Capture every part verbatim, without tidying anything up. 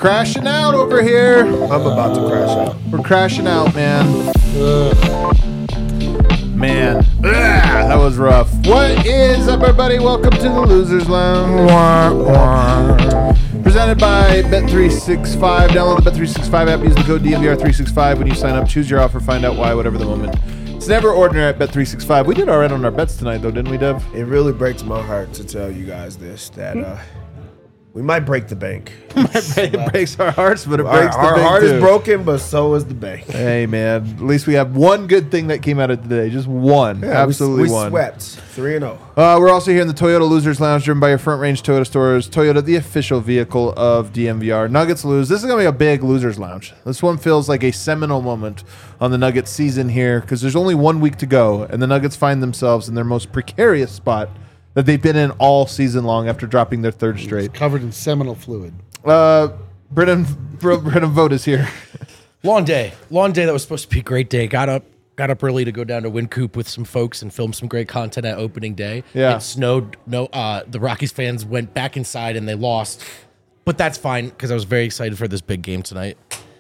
Crashing out over here. I'm about to crash out. We're crashing out, man. Ugh. Man, Ugh, that was rough. What is up, everybody? Welcome to the Losers Lounge. Wah, wah. Presented by Bet three sixty-five. Download the Bet three sixty-five app. Use the code D M V R three sixty-five when you sign up. Choose your offer. Find out why, whatever the moment. It's never ordinary at Bet three sixty-five. We did all right on our bets tonight, though, didn't we, Dev? It really breaks my heart to tell you guys this, that uh, we might break the bank. It breaks our hearts, but it Our, breaks the our bank, heart too. is broken, but so is the bank. Hey, man. At least we have one good thing that came out of today. Just one. Yeah, Absolutely we, we one. swept three and oh. Uh, we're also here in the Toyota Losers Lounge, driven by your Front Range Toyota stores. Toyota, the official vehicle of D M V R. Nuggets lose. This is going to be a big Losers Lounge. This one feels like a seminal moment on the Nuggets season here because there's only one week to go, and the Nuggets find themselves in their most precarious spot that they've been in all season long after dropping their third straight. Covered in seminal fluid. Uh, Brennan, Brennan Vogt is here. Long day. Long day that was supposed to be a great day. Got up got up early to go down to Wynkoop with some folks and film some great content at opening day. Yeah. It snowed. No, uh, the Rockies fans went back inside and they lost. But that's fine because I was very excited for this big game tonight.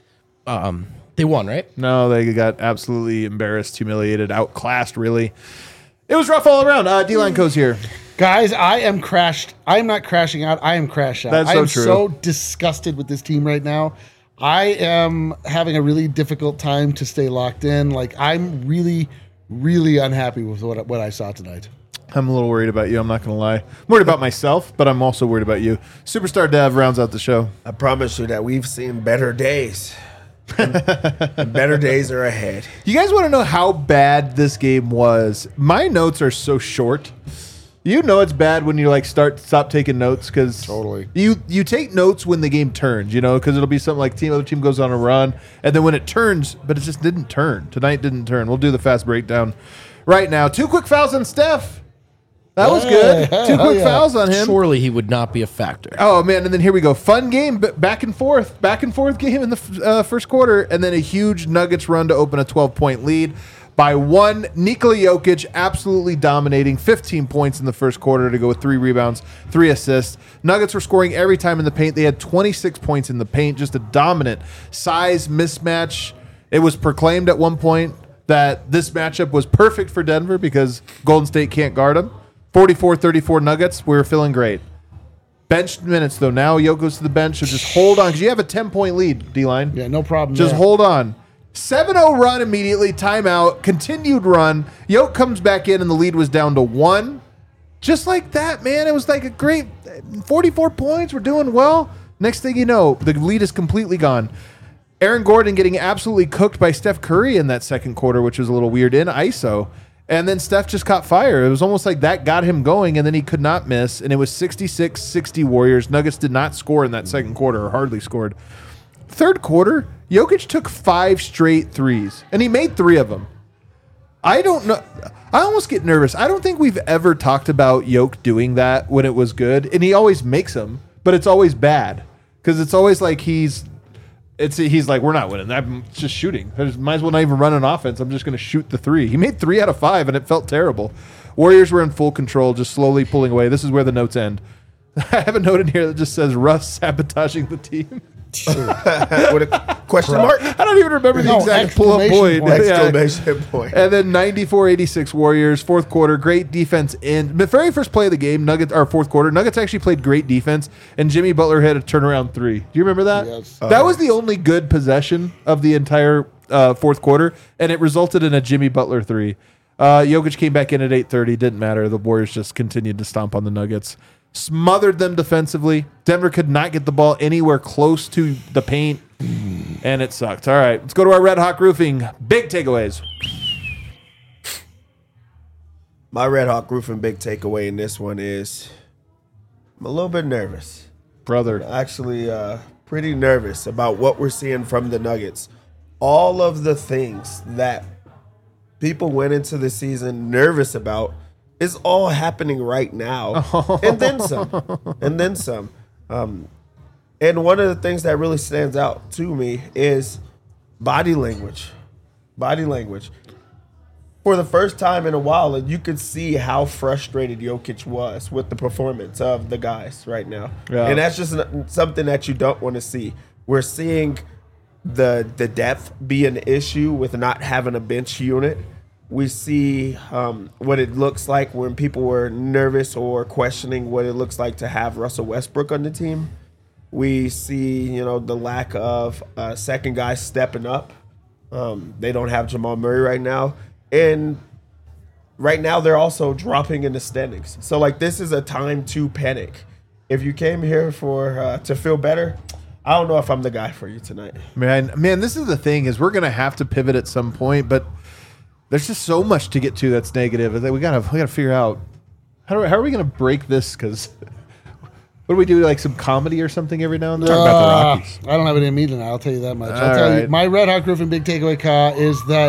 Um, they won, right? No, they got absolutely embarrassed, humiliated, outclassed, really. It was rough all around. Uh, D-Line Co's here. Guys, I am crashed. I am not crashing out. I am crashed out. That's I so am true. so disgusted with this team right now. I am having a really difficult time to stay locked in. Like, I'm really, really unhappy with what, what I saw tonight. I'm a little worried about you. I'm not going to lie. I'm worried about myself, but I'm also worried about you. Superstar Dev rounds out the show. I promise you that we've seen better days. and, and better days are ahead. You guys want to know how bad this game was? My notes are so short. You know it's bad when you like start stop taking notes because Totally. you you take notes when the game turns, you know, because it'll be something like team other team goes on a run, and then when it turns, but it just didn't turn. Tonight didn't turn. We'll do the fast breakdown right now. Two quick fouls on Steph. That was good. Hey, Two quick yeah. fouls on him. Surely he would not be a factor. Oh, man, and then here we go. Fun game, but back and forth. Back and forth game in the uh, first quarter, and then a huge Nuggets run to open a twelve-point lead by one. Nikola Jokic absolutely dominating, fifteen points in the first quarter to go with three rebounds, three assists. Nuggets were scoring every time in the paint. They had twenty-six points in the paint, just a dominant size mismatch. It was proclaimed at one point that this matchup was perfect for Denver because Golden State can't guard them. forty-four thirty-four Nuggets. We were feeling great. Bench minutes, though. Now Jokic goes to the bench, so just hold on because you have a ten-point lead, D-line. Yeah, no problem. Just there. hold on. seven oh run immediately, timeout, continued run. Yoke comes back in, and the lead was down to one. Just like that, man. It was like a great forty-four points. We're doing well. Next thing you know, the lead is completely gone. Aaron Gordon getting absolutely cooked by Steph Curry in that second quarter, which was a little weird in I S O. And then Steph just caught fire. It was almost like that got him going, and then he could not miss. And it was sixty-six sixty Warriors. Nuggets did not score in that second quarter, or hardly scored. Third quarter, Jokic took five straight threes, and he made three of them. I don't know. I almost get nervous. I don't think we've ever talked about Jokic doing that when it was good, and he always makes them, but it's always bad because it's always like he's it's he's like, we're not winning. I'm just shooting. I just might as well not even run an offense. I'm just going to shoot the three. He made three out of five, and it felt terrible. Warriors were in full control, just slowly pulling away. This is where the notes end. I have a note in here that just says Russ sabotaging the team. With a question mark? I don't even remember the No, exact pull-up exclamation point. point. Yeah. Exclamation point. And then ninety-four eighty-six Warriors, fourth quarter, great defense in the very first play of the game, Nuggets, or fourth quarter, Nuggets actually played great defense, and Jimmy Butler had a turnaround three. Do you remember that? Yes. That was the only good possession of the entire uh, fourth quarter, and it resulted in a Jimmy Butler three. Uh, Jokic came back in at eight thirty, didn't matter. The Warriors just continued to stomp on the Nuggets. Smothered them defensively. Denver could not get the ball anywhere close to the paint, and it sucked. All right, let's go to our Red Hawk Roofing. Big takeaways. My Red Hawk Roofing big takeaway in this one is I'm a little bit nervous. Brother. Actually, uh, pretty nervous about what we're seeing from the Nuggets. All of the things that people went into the season nervous about is all happening right now, and then some, and then some. Um, and one of the things that really stands out to me is body language. Body language. For the first time in a while, you could see how frustrated Jokic was with the performance of the guys right now. Yeah. And that's just something that you don't want to see. We're seeing the the depth be an issue with not having a bench unit. We see um, what it looks like when people were nervous or questioning what it looks like to have Russell Westbrook on the team. We see, you know, the lack of a second guy stepping up. Um, they don't have Jamal Murray right now. And right now they're also dropping in the standings. So, like, this is a time to panic. If you came here for uh, to feel better, I don't know if I'm the guy for you tonight. Man, man, this is the thing is we're going to have to pivot at some point, but there's just so much to get to that's negative. We got to we got to figure out how, do, how are we going to break this? Because what do we do, like some comedy or something every now and then? Uh, Talk about the Rockies. I don't have it in me tonight. I'll tell you that much. I'll All tell you, right. my Red Hawk Roofing big takeaway, Ka, is that,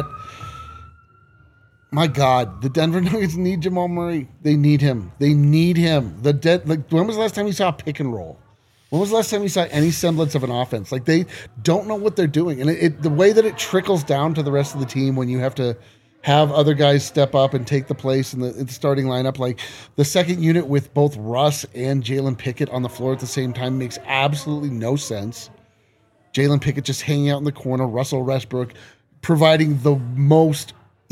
my God, the Denver Nuggets need Jamal Murray. They need him. They need him. The de- like, when was the last time you saw a pick and roll? When was the last time you saw any semblance of an offense? Like, they don't know what they're doing. And it, it, the way that it trickles down to the rest of the team when you have to have other guys step up and take the place in the, in the starting lineup, like the second unit with both Russ and Jalen Pickett on the floor at the same time makes absolutely no sense. Jalen Pickett just hanging out in the corner, Russell Westbrook providing the most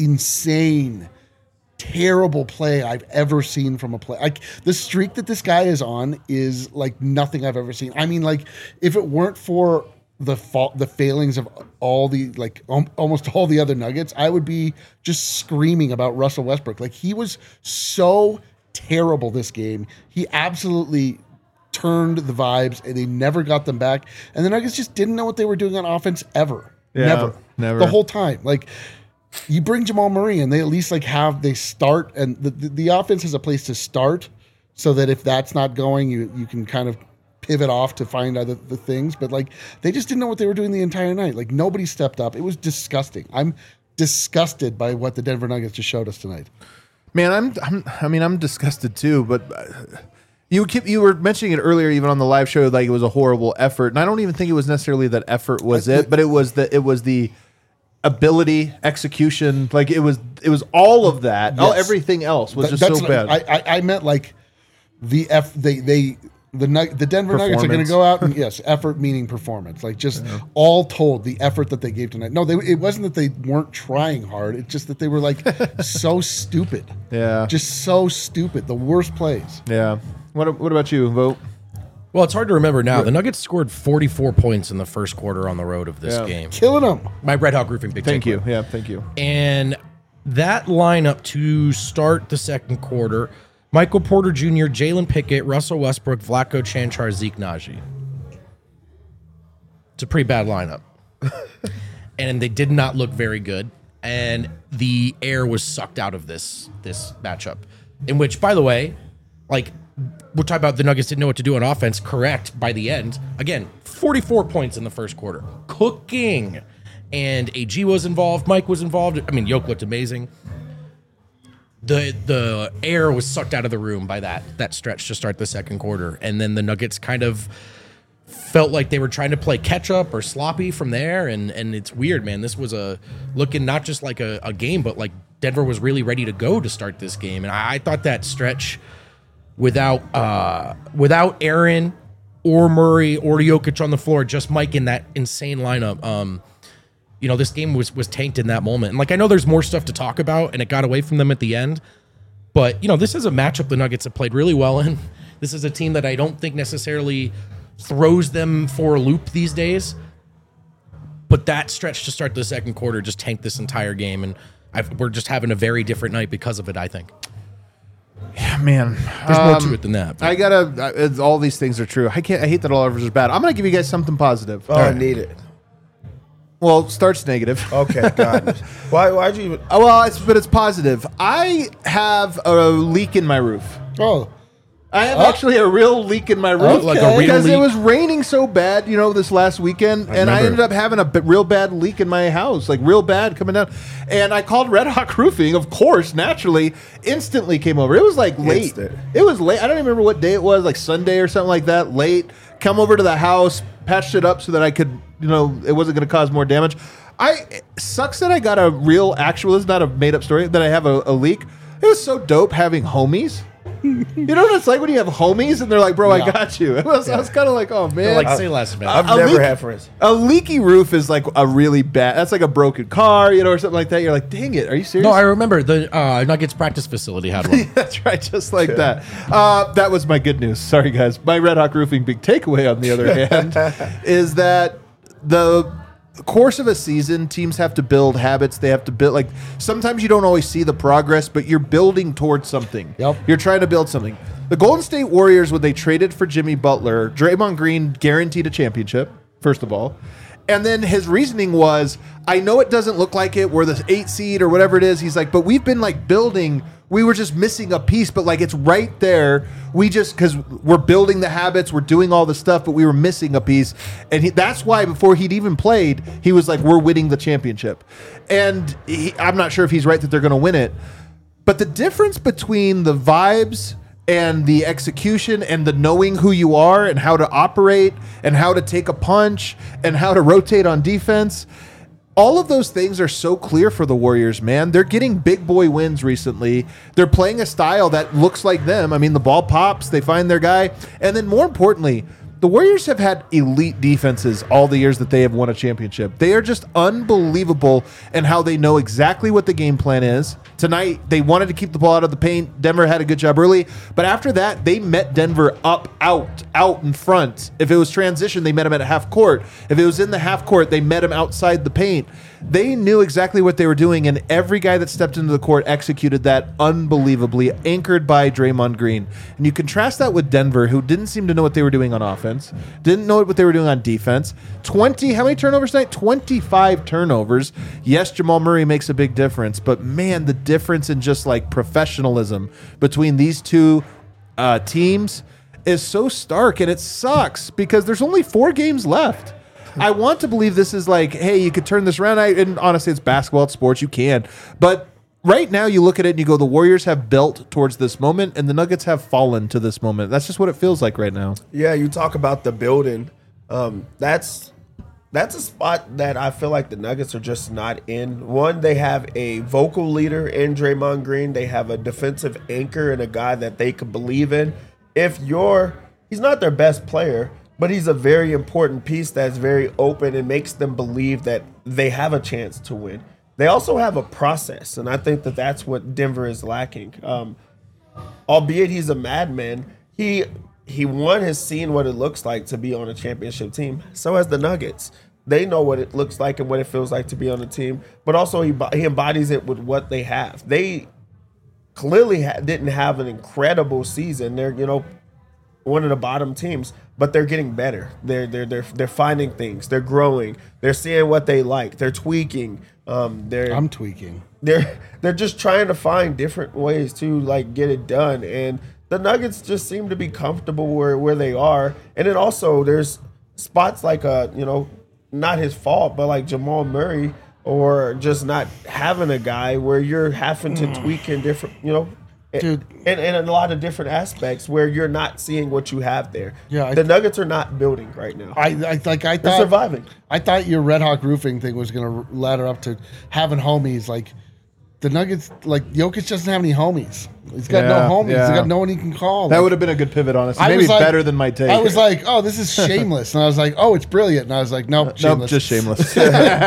insane, terrible play I've ever seen from a play. Like, the streak that this guy is on is like nothing I've ever seen. I mean, like, if it weren't for the fault, the failings of all the like um, almost all the other Nuggets, I would be just screaming about Russell Westbrook. Like, he was so terrible this game. He absolutely turned the vibes, and they never got them back. And the Nuggets just didn't know what they were doing on offense ever. Yeah, never, never. the whole time. Like, you bring Jamal Murray and they at least like have they start, and the, the, the offense has a place to start, so that if that's not going, you you can kind of pivot off to find other the things. But like, they just didn't know what they were doing the entire night. Like, nobody stepped up. It was disgusting. I'm disgusted by what the Denver Nuggets just showed us tonight. Man, I'm, I'm I mean, I'm disgusted too, but uh, you keep you were mentioning it earlier, even on the live show, like it was a horrible effort. And I don't even think it was necessarily that effort was it, but it was the it was the ability, execution, like it was it was all of that. All Yes. everything else was Th- just so not- bad. I, I I meant like the F they they the Nug- the Denver Nuggets are going to Performance. go out and yes, effort meaning performance. Like, just all told, the effort that they gave tonight. No, they, it wasn't that they weren't trying hard. It's just that they were like so stupid. Yeah. Just so stupid. The worst plays. yeah. What what about you, Vote? Well, it's hard to remember now. The Nuggets scored forty-four points in the first quarter on the road of this Yeah. game. Killing them. My Red Hawk Roofing big Thank takeaway. you. Yeah, thank you. And that lineup to start the second quarter: Michael Porter Junior, Jalen Pickett, Russell Westbrook, Vlatko Cancar, Zeke Naji. It's a pretty bad lineup. And they did not look very good. And the air was sucked out of this this matchup. In which, by the way, like, we're talking about the Nuggets didn't know what to do on offense. Correct. By the end, again, forty-four points in the first quarter, cooking, and A G was involved. Mike was involved. I mean, Yoke looked amazing. The the air was sucked out of the room by that that stretch to start the second quarter, and then the Nuggets kind of felt like they were trying to play catch up or sloppy from there, and and it's weird, man. This was a looking not just like a, a game, but like Denver was really ready to go to start this game, and I, I thought that stretch without uh, without Aaron or Murray or Jokic on the floor, just Mike in that insane lineup. Um, you know, this game was was tanked in that moment. And like, I know there's more stuff to talk about, and it got away from them at the end. But you know, this is a matchup the Nuggets have played really well in. This is a team that I don't think necessarily throws them for a loop these days. But that stretch to start the second quarter just tanked this entire game, and I've, we're just having a very different night because of it, I think. Yeah, man. There's more Um, to it than that. but- I gotta. Uh, all these things are true. I can't. I hate that all of us are bad. I'm gonna give you guys something positive. Oh, I need it. Well, starts negative. Okay, got it. Why? Why'd you even? Oh, well, it's but it's positive. I have a leak in my roof. Oh, I have actually a real leak in my roof. Like a real because it leak? was raining so bad, you know, this last weekend, and I remember. ended up having a b- real bad leak in my house, like real bad coming down. And I called Red Hawk Roofing, of course, naturally, instantly came over. It was like late. Instant. It was late. I don't even remember what day it was, like Sunday or something like that. Late. Come over to the house, patched it up so that I could, you know, it wasn't going to cause more damage. I it sucks that I got a real, actual. It's not a made up story that I have a, a leak. It was so dope having homies. You know what it's like when you have homies and they're like, bro, I Yeah. got you. It was, I was kind of like, oh, man. Like, say less, man. I've a never leak- had friends. A leaky roof is like a really bad, that's like a broken car, you know, or something like that. You're like, dang it, are you serious? No, I remember the uh, Nuggets practice facility had one. That's right, just like that. Uh, that was my good news. Sorry, guys. My Red Hawk Roofing big takeaway, on the other hand, is that the course of a season, teams have to build habits. They have to build, like, sometimes you don't always see the progress, but you're building towards something. Yep. You're trying to build something. The Golden State Warriors, when they traded for Jimmy Butler, Draymond Green guaranteed a championship, first of all. And then his reasoning was, I know it doesn't look like it. We're the eight seed or whatever it is. He's like, but we've been like building. We were just missing a piece, but like it's right there. We just, because we're building the habits, we're doing all the stuff, but we were missing a piece. And he, that's why before he'd even played, he was like, we're winning the championship. And he, I'm not sure if he's right that they're going to win it. But the difference between the vibes and the execution and the knowing who you are and how to operate and how to take a punch and how to rotate on defense, all of those things are so clear for the Warriors, man. They're getting big boy wins recently. They're playing a style that looks like them. I mean, the ball pops, they find their guy. And then more importantly, the Warriors have had elite defenses all the years that they have won a championship. They are just unbelievable in how they know exactly what the game plan is. Tonight, they wanted to keep the ball out of the paint. Denver had a good job early. But after that, they met Denver up, out, out in front. If it was transition, they met them at half court. If it was in the half court, they met them outside the paint. They knew exactly what they were doing, and every guy that stepped into the court executed that unbelievably, anchored by Draymond Green. And you contrast that with Denver, who didn't seem to know what they were doing on offense, didn't know what they were doing on defense. twenty, how many turnovers tonight? twenty-five turnovers. Yes, Jamal Murray makes a big difference, but man, the difference in just like professionalism between these two uh, teams is so stark, and it sucks because there's only four games left. I want to believe this is like, hey, you could turn this around. I, and honestly, it's basketball, it's sports, you can. But right now, you look at it and you go, the Warriors have built towards this moment, and the Nuggets have fallen to this moment. That's just what it feels like right now. Yeah, you talk about the building. Um, that's that's a spot that I feel like the Nuggets are just not in. One, they have a vocal leader in Draymond Green. They have a defensive anchor and a guy that they can believe in. If you're, he's not their best player, but he's a very important piece that's very open and makes them believe that they have a chance to win. They also have a process, and I think that that's what Denver is lacking. Um, albeit he's a madman, he he one has seen what it looks like to be on a championship team. So has the Nuggets. They know what it looks like and what it feels like to be on a team, but also he he embodies it with what they have. They clearly ha- didn't have an incredible season. They're you know one of the bottom teams, but they're getting better. They're they're they're they're finding things. They're growing. They're seeing what they like. They're tweaking. Um, they're I'm tweaking. they're they're just trying to find different ways to like get it done. And the Nuggets just seem to be comfortable where, where they are. And then also there's spots like uh you know not his fault, but like Jamal Murray or just not having a guy where you're having to tweak in different you know. Dude. And, and a lot of different aspects where you're not seeing what you have there. Yeah, I- the Nuggets are not building right now. I, I like I They're thought surviving. I thought your Red Hawk Roofing thing was going to ladder up to having homies. Like the Nuggets, like Jokic doesn't have any homies. He's got Yeah, no homies. yeah. He's got no one he can call. That Like, would have been a good pivot, honestly. I Maybe was like- better than my take. I was like, oh, this is shameless, and I was like, oh, it's brilliant, and I was like, nope, nope, shameless. just shameless.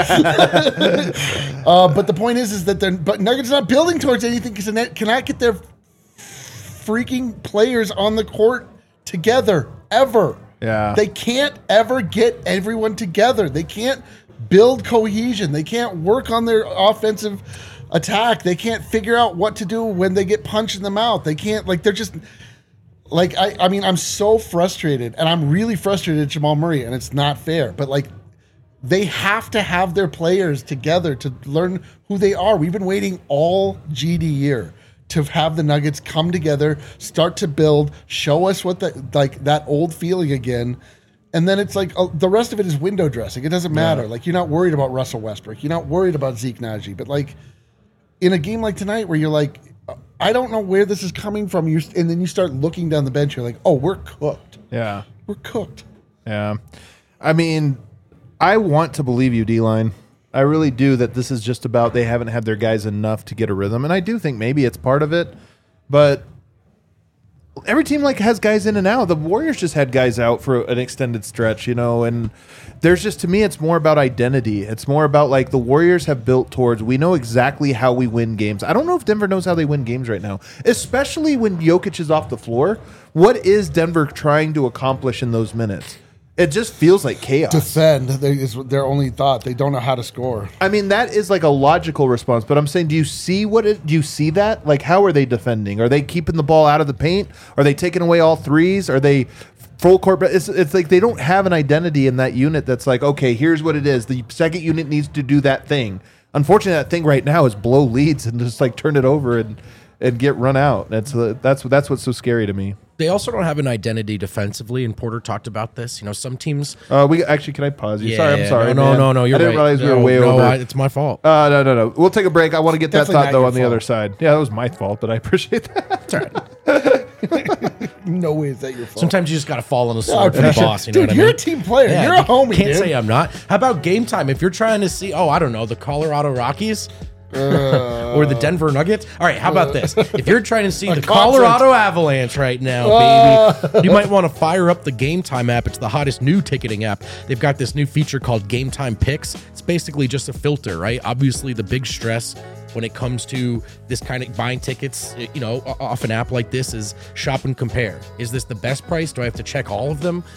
Uh, but the point is, is that they're but Nuggets are not building towards anything because they cannot get their freaking players on the court together ever. Yeah. They can't ever get everyone together. They can't build cohesion. They can't work on their offensive attack. They can't figure out what to do when they get punched in the mouth. They can't, like, they're just, like, I, I mean, I'm so frustrated, and I'm really frustrated at Jamal Murray, and it's not fair, but, like, they have to have their players together to learn who they are. We've been waiting all G D year to have the Nuggets come together, start to build, show us what the like that old feeling again, and then it's like uh, the rest of it is window dressing. It doesn't matter. Like you're not worried about Russell Westbrook, you're not worried about Zeke Naji, but like in a game like tonight where you're like, I don't know where this is coming from, you and then you start looking down the bench, you're like, oh, we're cooked. yeah. We're cooked. Yeah. I mean, I want to believe you, D-Line. I really do, that this is just about they haven't had their guys enough to get a rhythm. And I do think maybe it's part of it. But every team like has guys in and out. The Warriors just had guys out for an extended stretch, you know, and there's just, to me, it's more about identity. It's more about like the Warriors have built towards, we know exactly how we win games. I don't know if Denver knows how they win games right now, especially when Jokic is off the floor. What is Denver trying to accomplish in those minutes? It just feels like chaos. Defend they, is their only thought. They don't know how to score. I mean, that is like a logical response, but I'm saying, do you see what it, do you see that? Like, how are they defending? Are they keeping the ball out of the paint? Are they taking away all threes? Are they full court? It's, it's like they don't have an identity in that unit that's like, okay, here's what it is. The second unit needs to do that thing. Unfortunately, that thing right now is blow leads and just like turn it over and, and get run out. That's uh, that's that's what's so scary to me. They also don't have an identity defensively, and Porter talked about this. You know, some teams. Uh, we actually, can I pause you? Yeah, sorry, I'm yeah, sorry. No, man. no, no, you're I didn't right. realize we no, were way no, over. I, it's my fault. Uh, no, no, no. We'll take a break. I want to get Definitely that thought not though your on the fault. other side. Yeah, that was my fault, but I appreciate that. It's all right. No way is that your fault. Sometimes you just got to fall on the I sword for the appreciate- boss. You know dude, what I you're mean? a team player. Yeah, You're a homie, Can't dude. say I'm not. How about game time? If you're trying to see, oh, I don't know, the Colorado Rockies. Uh, or the Denver Nuggets. All right, how about this? If you're trying to see the concert. Colorado Avalanche right now, Uh. baby, you might want to fire up the Game Time app. It's the hottest new ticketing app. They've got this new feature called Game Time Picks. It's basically just a filter, right? Obviously, the big stress when it comes to this kind of buying tickets, you know, off an app like this is shop and compare. Is this the best price? Do I have to check all of them?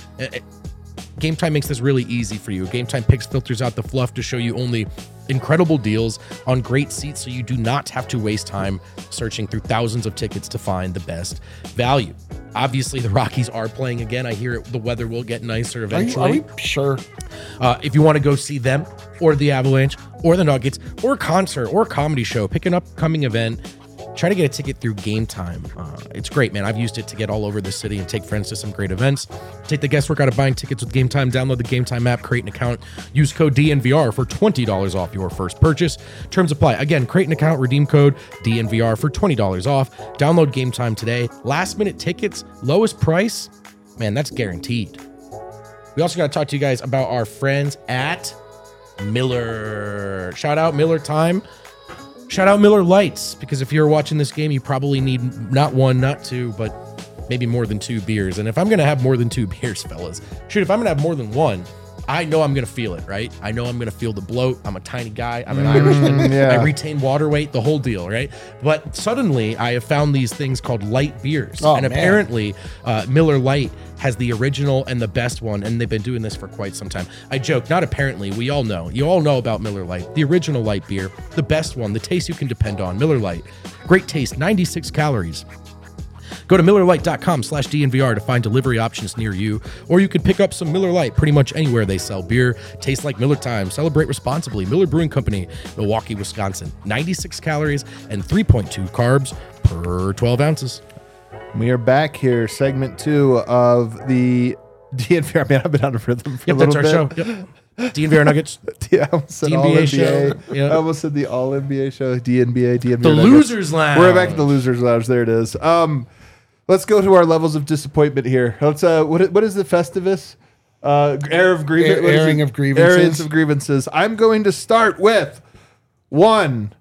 Game Time makes this really easy for you. Game Time Picks filters out the fluff to show you only incredible deals on great seats, so you do not have to waste time searching through thousands of tickets to find the best value. Obviously, the Rockies are playing again. I hear it, the weather will get nicer are, you, eventually. are we sure? Uh, if you want to go see them or the Avalanche or the Nuggets or a concert or a comedy show, pick an upcoming event, try to get a ticket through Game Time. Uh, it's great, man. I've used it to get all over the city and take friends to some great events. Take the guesswork out of buying tickets with Game Time. Download the Game Time app, create an account, use code D N V R for twenty dollars off your first purchase. Terms apply. Again, create an account, redeem code D N V R for twenty dollars off. Download Game Time today. Last minute tickets, lowest price, man, that's guaranteed. We also got to talk to you guys about our friends at Miller. Shout out Miller Time. Shout out Miller Lights, because if you're watching this game, you probably need not one, not two, but maybe more than two beers. And if I'm going to have more than two beers, fellas, shoot, if I'm going to have more than one, I know I'm going to feel it, right? I know I'm going to feel the bloat. I'm a tiny guy. I'm an Irishman. yeah. I retain water weight, the whole deal, right? But suddenly I have found these things called light beers. Oh, and man. apparently uh, Miller Light has the original and the best one, and they've been doing this for quite some time. I joke, not apparently, we all know. You all know about Miller Lite, the original light beer, the best one, the taste you can depend on. Miller Lite, great taste, ninety-six calories. Go to MillerLite.com slash DNVR to find delivery options near you, or you could pick up some Miller Lite pretty much anywhere they sell beer. Tastes like Miller Time. Celebrate responsibly. Miller Brewing Company, Milwaukee, Wisconsin. ninety-six calories and three point two carbs per twelve ounces. We are back here, segment two of the D N V R. Man, I've been out of rhythm for Yep, a that's little our bit. show. Yep. D N V R Nuggets. Yeah, I almost said D N B A all N B A. show. Yeah. I almost said the all N B A show. D N B A, D N V The R Nuggets. Losers Lounge. We're back at the Losers Lounge. There it is. Um, let's go to our levels of disappointment here. Let's. Uh, what what is the Festivus? Uh, air of grievance. Air- airing of grievances. Airings of grievances. I'm going to start with one.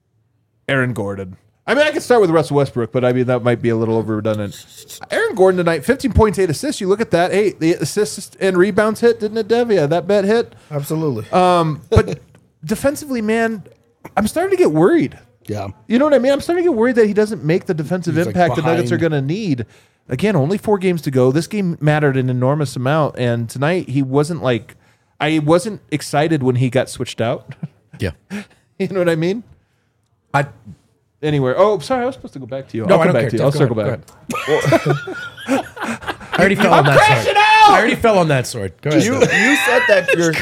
Aaron Gordon. I mean, I could start with Russell Westbrook, but I mean, that might be a little over redundant. Aaron Gordon tonight, fifteen points, eight assists. You look at that. Hey, the assists and rebounds hit, didn't it, Dev? Yeah, that bet hit. Absolutely. Um, but defensively, man, I'm starting to get worried. Yeah. You know what I mean? I'm starting to get worried that he doesn't make the defensive He's, like, impact the Nuggets are behind. going to need. Again, only four games to go. This game mattered an enormous amount, and tonight he wasn't like I wasn't excited when he got switched out. Yeah. You know what I mean? I Anywhere. Oh, sorry, I was supposed to go back to you. No, I'll I come don't back care. to you. Jeff, I'll go circle ahead, back. go I already fell on that sword. I already fell on that sword. Go ahead. You you said that you're,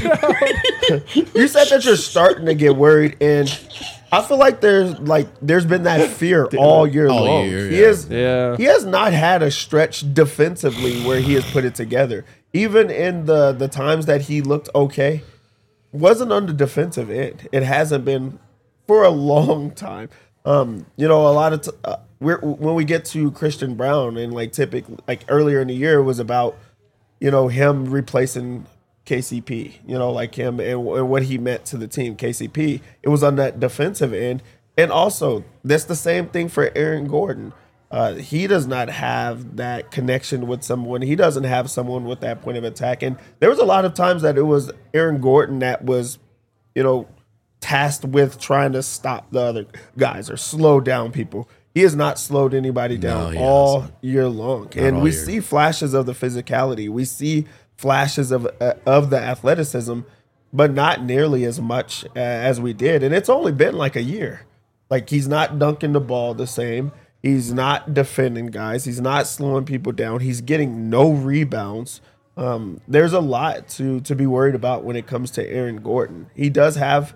you're you said that you're starting to get worried, and I feel like there's like there's been that fear all year All long. year, He yeah. is Yeah. he has not had a stretch defensively where he has put it together. Even in the the times that he looked okay, wasn't on the defensive end. It hasn't been for a long time. Um, you know, a lot of t- uh, we're, when we get to Christian Brown and like typically like earlier in the year it was about you know him replacing K C P. You know, like him and, and what he meant to the team. K C P. It was on that defensive end, and also that's the same thing for Aaron Gordon. Uh, he does not have that connection with someone. He doesn't have someone with that point of attack. And there was a lot of times that it was Aaron Gordon that was, you know, tasked with trying to stop the other guys or slow down people. He has not slowed anybody down No, all hasn't. year long. And all we year. see flashes of the physicality. We see flashes of uh, of the athleticism, but not nearly as much uh, as we did. And it's only been like a year. Like, he's not dunking the ball the same. He's not defending guys. He's not slowing people down. He's getting no rebounds. Um, there's a lot to to be worried about when it comes to Aaron Gordon. He does have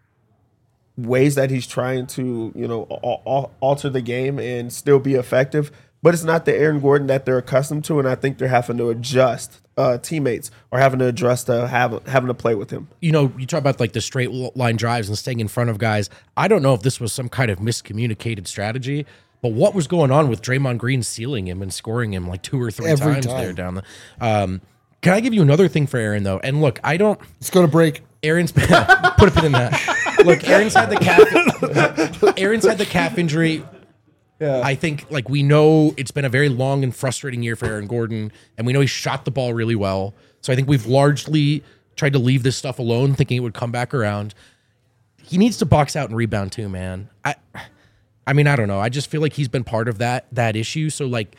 ways that he's trying to, you know, al- al- alter the game and still be effective, but it's not the Aaron Gordon that they're accustomed to, and I think they're having to adjust. Uh, teammates are having to adjust to have having to play with him. You know, you talk about like the straight line drives and staying in front of guys. I don't know if this was some kind of miscommunicated strategy, but what was going on with Draymond Green sealing him and scoring him like two or three Every times time. there down the. Um, can I give you another thing for Aaron though? And look, I don't. Let's go to break. Aaron's put a pin in that. Look, Aaron's had the calf. Aaron's had the calf injury. Yeah. I think like we know it's been a very long and frustrating year for Aaron Gordon, and we know he shot the ball really well. So I think we've largely tried to leave this stuff alone, thinking it would come back around. He needs to box out and rebound too, man. I, I mean, I don't know. I just feel like he's been part of that that issue. So like,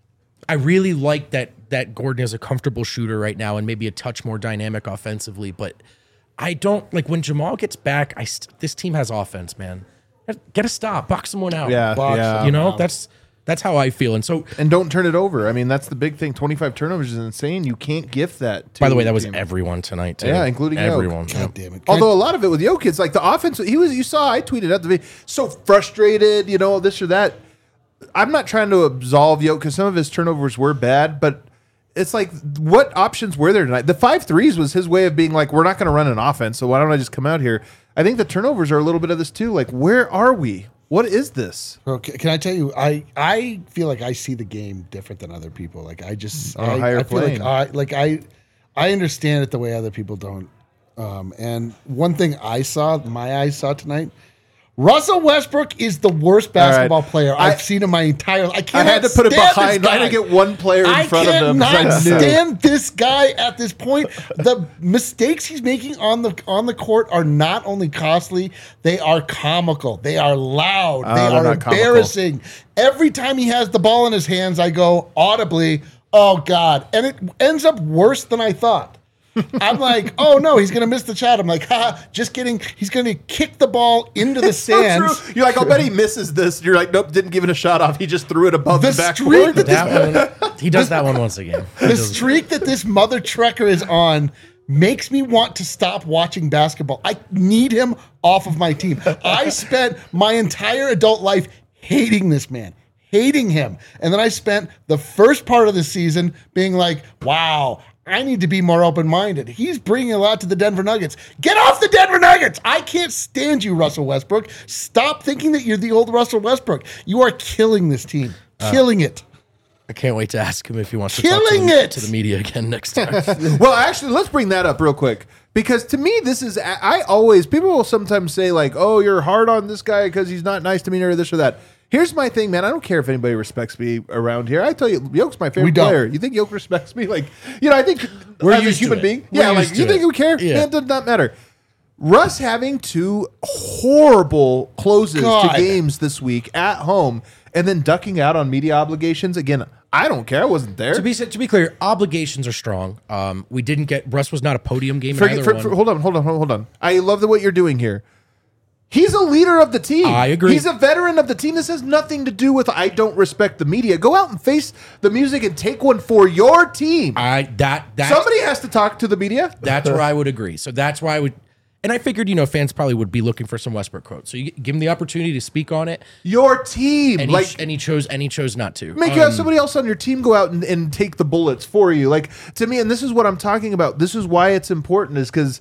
I really like that that Gordon is a comfortable shooter right now and maybe a touch more dynamic offensively, but I don't like when Jamal gets back. I st- this team has offense, man. Get a stop, box someone out. Yeah, Box yeah. You know, that's that's how I feel. And so, And don't turn it over. I mean, that's the big thing. twenty-five turnovers is insane. You can't gift that. To by the way, that a was team. everyone tonight too. Yeah, including Yoke. everyone. God damn it. Although a lot of it with Jokic, it's like the offense, he was. You saw, I tweeted out the video, so frustrated, you know, this or that. I'm not trying to absolve Jokic because some of his turnovers were bad, but it's like, what options were there tonight? The five threes was his way of being like, we're not going to run an offense, so why don't I just come out here? I think the turnovers are a little bit of this too. Like, where are we? What is this? Okay, can I tell you? I I feel like I see the game different than other people. Like I just On a I, higher I feel plane. like I like I I understand it the way other people don't. Um, and one thing I saw, my eyes saw tonight, Russell Westbrook is the worst basketball right. player I- I've seen in my entire. I I can't. had to put it behind. I had to get one player in I front of him. 'cause cannot I knew. stand this guy at this point. The mistakes he's making on the on the court are not only costly, they are comical. They are loud. Oh, they they're are not comical. embarrassing. Every time he has the ball in his hands, I go audibly, "Oh God!" And it ends up worse than I thought. I'm like, oh no, he's gonna miss the shot. I'm like, ha, just kidding. He's gonna kick the ball into the So stands. true. You're like, I'll bet he misses this. You're like, nope, didn't give it a shot off. He just threw it above The the, streak backboard. that That one, he does that one once again. He The does- streak that this mother trucker is on makes me want to stop watching basketball. I need him off of my team. I spent my entire adult life hating this man, hating him. And then I spent the first part of the season being like, wow, I need to be more open-minded. He's bringing a lot to the Denver Nuggets. Get off the Denver Nuggets! I can't stand you, Russell Westbrook. Stop thinking that you're the old Russell Westbrook. You are killing this team. Killing it. I can't wait to ask him if he wants to Killing talk to, it! to the media again next time. Well, actually, let's bring that up real quick because to me, this is. I I always people will sometimes say like, "Oh, you're hard on this guy because he's not nice to me or this or that." Here's my thing, man. I don't care if anybody respects me around here. I tell you, Yoke's my We favorite don't. player. You think Yoke respects me? Like, you know, I think We're as a used to human it. being, We're yeah. Like, used you to think it. we care? Yeah. Man, it does not matter. Russ having two horrible closes God. to games this week at home, and then ducking out on media obligations again. I don't care. I wasn't there. to be to be clear, obligations are strong. Um, we didn't get Russ was not a podium game in Forget- either for- one. for- hold on, hold on, hold on. I love the what you're doing here. He's a leader of the team. I agree. He's a veteran of the team. This has nothing to do with I don't respect the media. Go out and face the music and take one for your team. I that that Somebody has to talk to the media. That's where I would agree. So that's why I would, and I figured you know fans probably would be looking for some Westbrook quotes. So you give him the opportunity to speak on it, Your team. and like he, and he chose and he chose not to. make Um, uh, somebody else on your team go out and, and take the bullets for you. Like to me, and this is what I'm talking about. This is why it's important, is because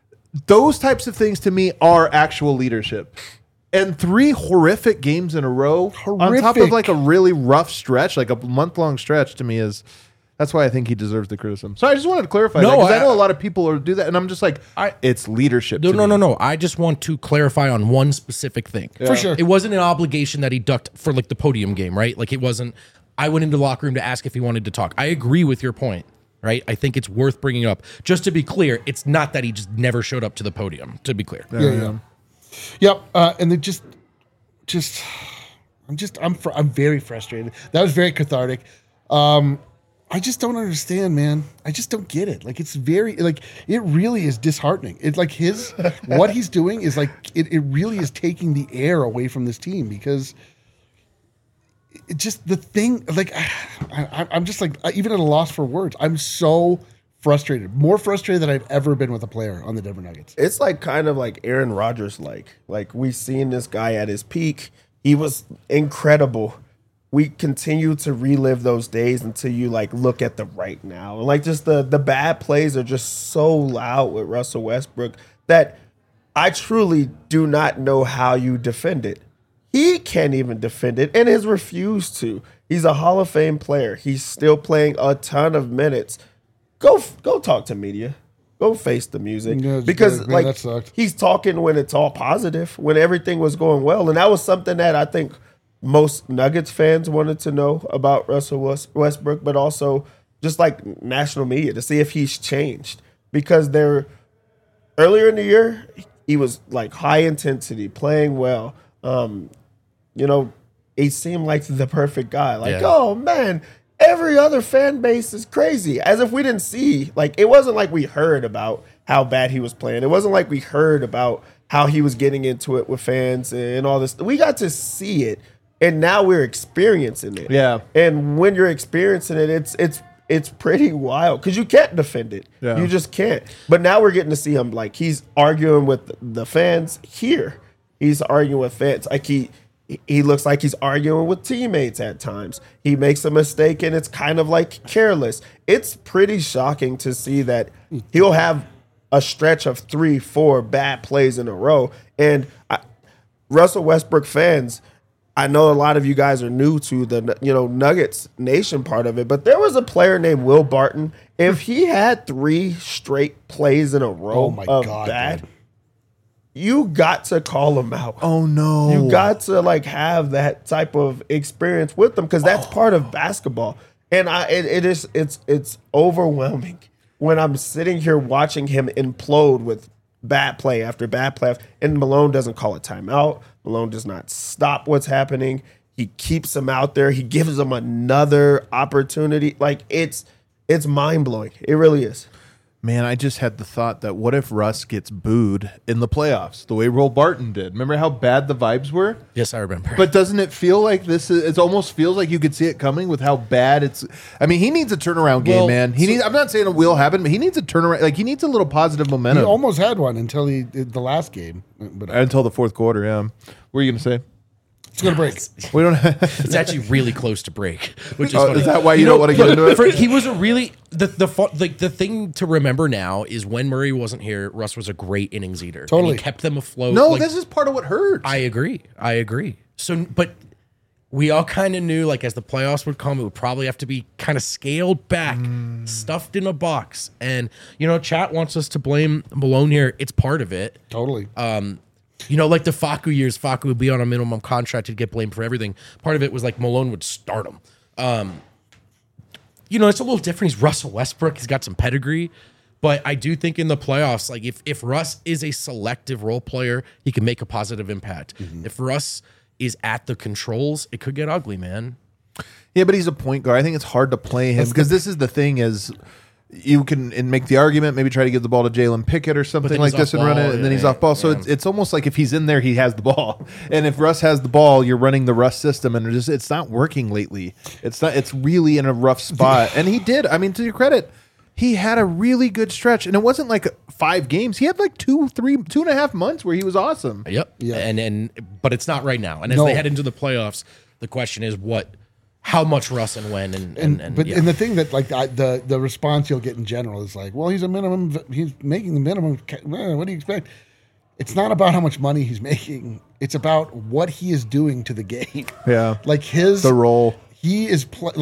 those types of things to me are actual leadership. And three horrific games in a row on top of Horrific. like a really rough stretch, like a month long stretch, to me is That's why I think he deserves the criticism. So I just wanted to clarify No, that because I, I- know a lot of people are do that, and I'm just like, I- it's leadership. No, to no, me. no, no. I just want to clarify on one specific thing. For sure. It wasn't an obligation that he ducked for like the podium game, right? Like it wasn't. I went into the locker room to ask if he wanted to talk. I agree with your point, right? I think it's worth bringing up. Just to be clear, it's not that he just never showed up to the podium. To be clear, Yeah, yeah. Yep. Uh, and they just, just, I'm just, I'm, fr- I'm very frustrated. That was very cathartic. Um, I just don't understand, man. I just don't get it. Like, it's very, like, it really is disheartening. It's like his, what he's doing is like, it, it really is taking the air away from this team because it just, the thing, like, I, I, I'm just like, even at a loss for words. I'm so frustrated, more frustrated than I've ever been with a player on the Denver Nuggets. It's like kind of like Aaron Rodgers like. Like we've seen this guy at his peak. He was incredible. We continue to relive those days until you like look at the right now. And like just the the bad plays are just so loud with Russell Westbrook that I truly do not know how you defend it. He can't even defend it and has refused to. He's a Hall of Fame player. He's still playing a ton of minutes. Go go talk to media. Go face the music. Yeah, it's because good, man. like That sucked. he's talking when it's all positive, when everything was going well. And that was something that I think most Nuggets fans wanted to know about Russell West- Westbrook, but also just like national media to see if he's changed. Because they're earlier in the year, he was like high intensity, playing well. Um, you know, he seemed like the perfect guy. Like, Yeah. oh man, every other fan base is crazy. As if we didn't see, like, it wasn't like we heard about how bad he was playing. It wasn't like we heard about how he was getting into it with fans and all this. We got to see it, and now we're experiencing it. Yeah. And when you're experiencing it, it's it's it's pretty wild because you can't defend it. Yeah. You just can't. But now we're getting to see him like he's arguing with the fans here. He's arguing with fans like he. He looks like he's arguing with teammates at times. He makes a mistake and it's kind of like careless. It's pretty shocking to see that he'll have a stretch of three, four bad plays in a row. And I, Russell Westbrook fans, I know a lot of you guys are new to the you know Nuggets Nation part of it, but there was a player named Will Barton. If he had three straight plays in a row Oh my of God, bad, dude. you got to call him out. Oh no! You got to like have that type of experience with them because that's part of basketball. And I, it, it is, it's, it's overwhelming when I'm sitting here watching him implode with bad play after bad play, after, and Malone doesn't call a timeout. Malone does not stop what's happening. He keeps him out there. He gives him another opportunity. Like it's, it's mind blowing. It really is. Man, I just had the thought that what if Russ gets booed in the playoffs the way Will Barton did? Remember how bad the vibes were? yes, I remember. But doesn't it feel like this is, it almost feels like you could see it coming with how bad it's, I mean, he needs a turnaround game, Well, man. He so- needs, I'm not saying it will happen, but he needs a turnaround, like he needs a little positive He momentum almost had one until he did the last game. But until the fourth quarter, yeah. What were you going to say? it's going to break. We don't it's actually really close to break, which is Oh, funny. is that why you don't wanna get into it? For, he was a really the the fu- like the thing to remember now is when Murray wasn't here, Russ was a great innings eater. And Totally. he kept them afloat. No, Like, this is part of what hurts. I agree. I agree. So, but we all kind of knew, like, as the playoffs would come, it would probably have to be kind of scaled back, stuffed in a box. And, you know, chat wants us to blame Malone here. It's part of it. Totally. You know, like the Facu years, Facu would be on a minimum contract to get blamed for everything. Part of it was like Malone would start him. Um, you know, it's a little different. He's Russell Westbrook. He's got some pedigree. But I do think in the playoffs, like if, if Russ is a selective role player, he can make a positive impact. If Russ is at the controls, it could get ugly, man. Yeah, but he's a point guard. I think it's hard to play him because this is the thing is you can and make the argument, maybe try to give the ball to Jalen Pickett or something then like he's this off and run ball, it, and then yeah, he's off ball. So it's, it's almost like if he's in there, he has the ball. And if Russ has the ball, you're running the Russ system, and it just it's not working lately. It's not. It's really in a rough spot. And he did. I mean, to your credit, he had a really good stretch, and it wasn't like five games. He had like two, three, two and a half months where he was awesome. Yep. Yeah. And and but it's not right now. And as No. they head into the playoffs, the question is what, how much Russ and when and and, And, and but yeah. and the thing that like I, the the response you'll get in general is like, well, he's a minimum. He's making the minimum. ca- eh, What do you expect? It's not about how much money he's making. It's about what he is doing to the game. Yeah. Like his The role. He is pl- like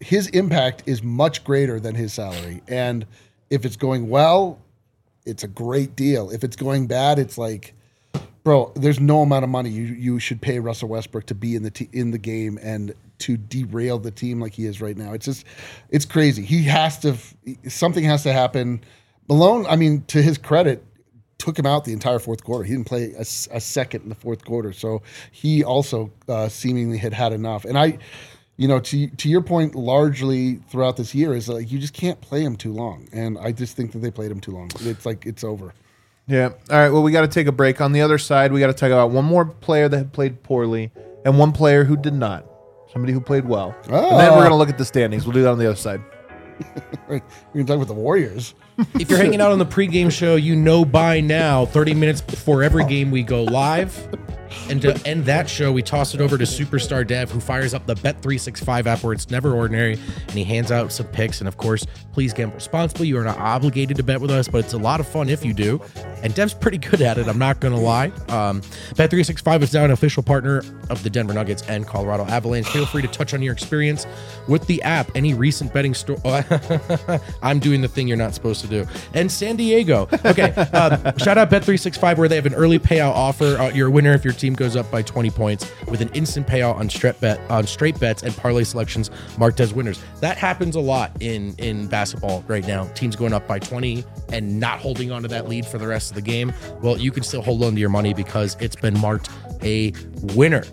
his impact is much greater than his salary. And if it's going well, it's a great deal. If it's going bad, it's like, bro, there's no amount of money you, you should pay Russell Westbrook to be in the te- in the game and to derail the team like he is right now. It's just, it's crazy. He has to, something has to happen. Malone, I mean, to his credit, took him out the entire fourth quarter. He didn't play a, a second in the fourth quarter. So he also uh, seemingly had had enough. And I, you know, to to your point, largely throughout this year is like you just can't play him too long. And I just think that they played him too long. It's like it's over. Yeah. All right. Well, we got to take a break. On the other side, we got to talk about one more player that had played poorly and one player who did not. Somebody who played well. Oh. And then we're going to look at the standings. We'll do that on the other side. We're going to talk about the Warriors. If you're hanging out on the pregame show, you know by now, thirty minutes before every game we go live. And to end that show, we toss it over to Superstar Dev, who fires up the Bet three sixty-five app where it's never ordinary, and he hands out some picks. And of course, please gamble responsibly. You are not obligated to bet with us, but it's a lot of fun if you do. And Dev's pretty good at it, I'm not going to lie. Um, Bet three sixty-five is now an official partner of the Denver Nuggets and Colorado Avalanche. Feel free to touch on your experience with the app. Any recent betting store... I'm doing the thing you're not supposed to do. And San Diego. Okay, uh, shout out Bet three sixty-five where they have an early payout offer. Uh, you're a winner if your team goes up by twenty points with an instant payout on straight bet on straight bets and parlay selections marked as winners. That happens a lot in in basketball right now. Teams going up by twenty and not holding on to that lead for the rest of the game. Well, you can still hold on to your money because it's been marked a winner.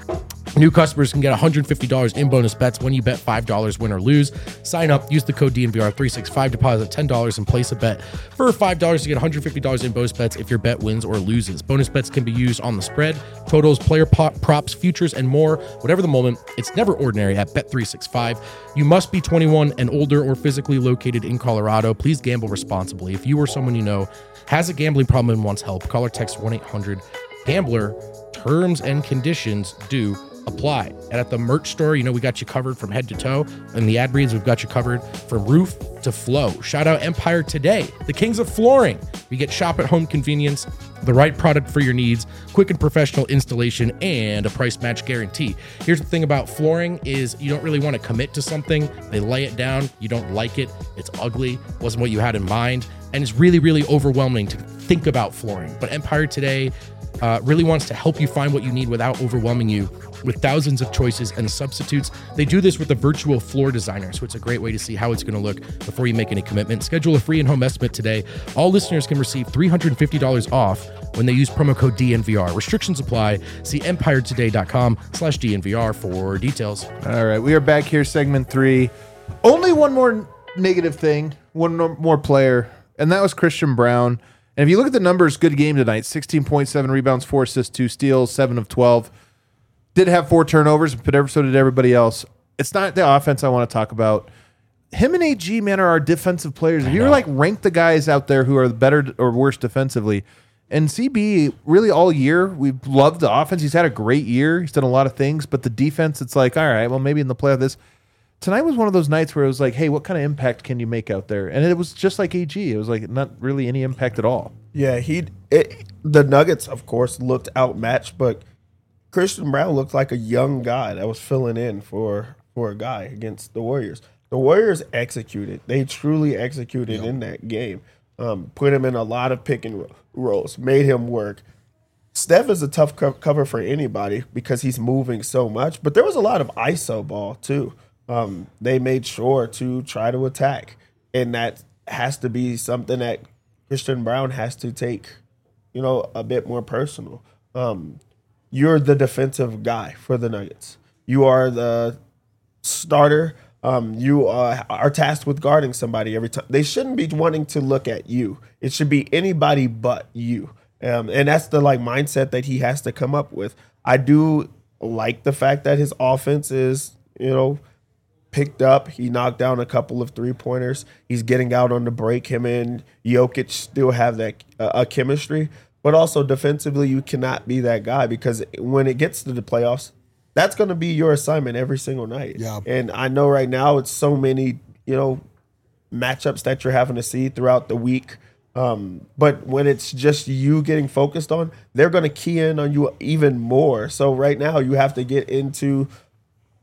New customers can get one hundred fifty dollars in bonus bets when you bet five dollars win or lose. Sign up, use the code D N V R three sixty-five, deposit ten dollars and place a bet for five dollars to get one hundred fifty dollars in bonus bets if your bet wins or loses. Bonus bets can be used on the spread, totals, player pop, props, futures, and more. Whatever the moment, it's never ordinary at Bet three sixty-five. You must be twenty-one and older or physically located in Colorado. Please gamble responsibly. If you or someone you know has a gambling problem and wants help, call or text one eight hundred gambler. Terms and conditions do apply. And at the merch store, you know, we got you covered from head to toe. And the ad reads, we've got you covered from roof to flow. Shout out Empire Today, the kings of flooring. You get shop at home convenience, the right product for your needs, quick and professional installation, and a price match guarantee. Here's the thing about flooring is you don't really want to commit to something. They lay it down. You don't like it. It's ugly. Wasn't what you had in mind. And it's really, really overwhelming to think about flooring. But Empire Today Uh, really wants to help you find what you need without overwhelming you with thousands of choices and substitutes. They do this with a virtual floor designer, so it's a great way to see how it's going to look before you make any commitment. Schedule a free in-home estimate today. All listeners can receive three hundred fifty dollars off when they use promo code D N V R. Restrictions apply. See empiretoday.com slash DNVR for details. All right, we are back here, segment three. Only one more negative thing, one more player, and that was Christian Braun. And if you look at the numbers, good game tonight. sixteen point seven rebounds, four assists, two steals, seven of twelve. Did have four turnovers, but so did everybody else. It's not the offense I want to talk about. Him and A G, man, are our defensive players. If you were like rank the guys out there who are better or worse defensively, and C B really all year, we've loved the offense. He's had a great year. He's done a lot of things, but the defense, it's like, all right, well, maybe in the play of this. Tonight was one of those nights where it was like, hey, what kind of impact can you make out there? And it was just like A G. It was like not really any impact at all. Yeah, he it, the Nuggets, of course, looked outmatched, but Christian Braun looked like a young guy that was filling in for for a guy against the Warriors. The Warriors executed. They truly executed yep. in that game. Um, put him in a lot of pick and rolls, made him work. Steph is a tough co- cover for anybody because he's moving so much, but there was a lot of I S O ball too. Um, they made sure to try to attack, and that has to be something that Christian Braun has to take, you know, a bit more personal. Um, you're the defensive guy for the Nuggets. You are the starter. Um, you uh, are tasked with guarding somebody every time. They shouldn't be wanting to look at you. It should be anybody but you. Um, and that's the like mindset that he has to come up with. I do like the fact that his offense is, you know, picked up. He knocked down a couple of three-pointers. He's getting out on the break. Him and Jokic still have that uh, a chemistry. But also defensively, you cannot be that guy because when it gets to the playoffs, that's going to be your assignment every single night. Yeah. And I know right now it's so many, you know, matchups that you're having to see throughout the week. Um, but when it's just you getting focused on, they're going to key in on you even more. So right now you have to get into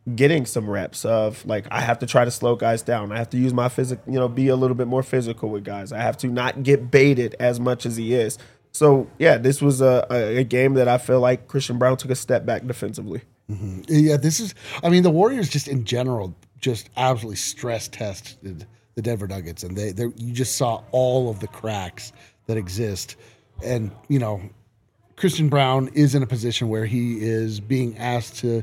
getting some reps of like I have to try to slow guys down. I have to use my physic, you know, be a little bit more physical with guys. I have to not get baited as much as he is. So yeah, this was a, a, a game that I feel like Christian Braun took a step back defensively. Mm-hmm. Yeah, this is. I mean, the Warriors just in general just absolutely stress tested the Denver Nuggets, and they, they you just saw all of the cracks that exist, and you know. Christian Braun is in a position where he is being asked to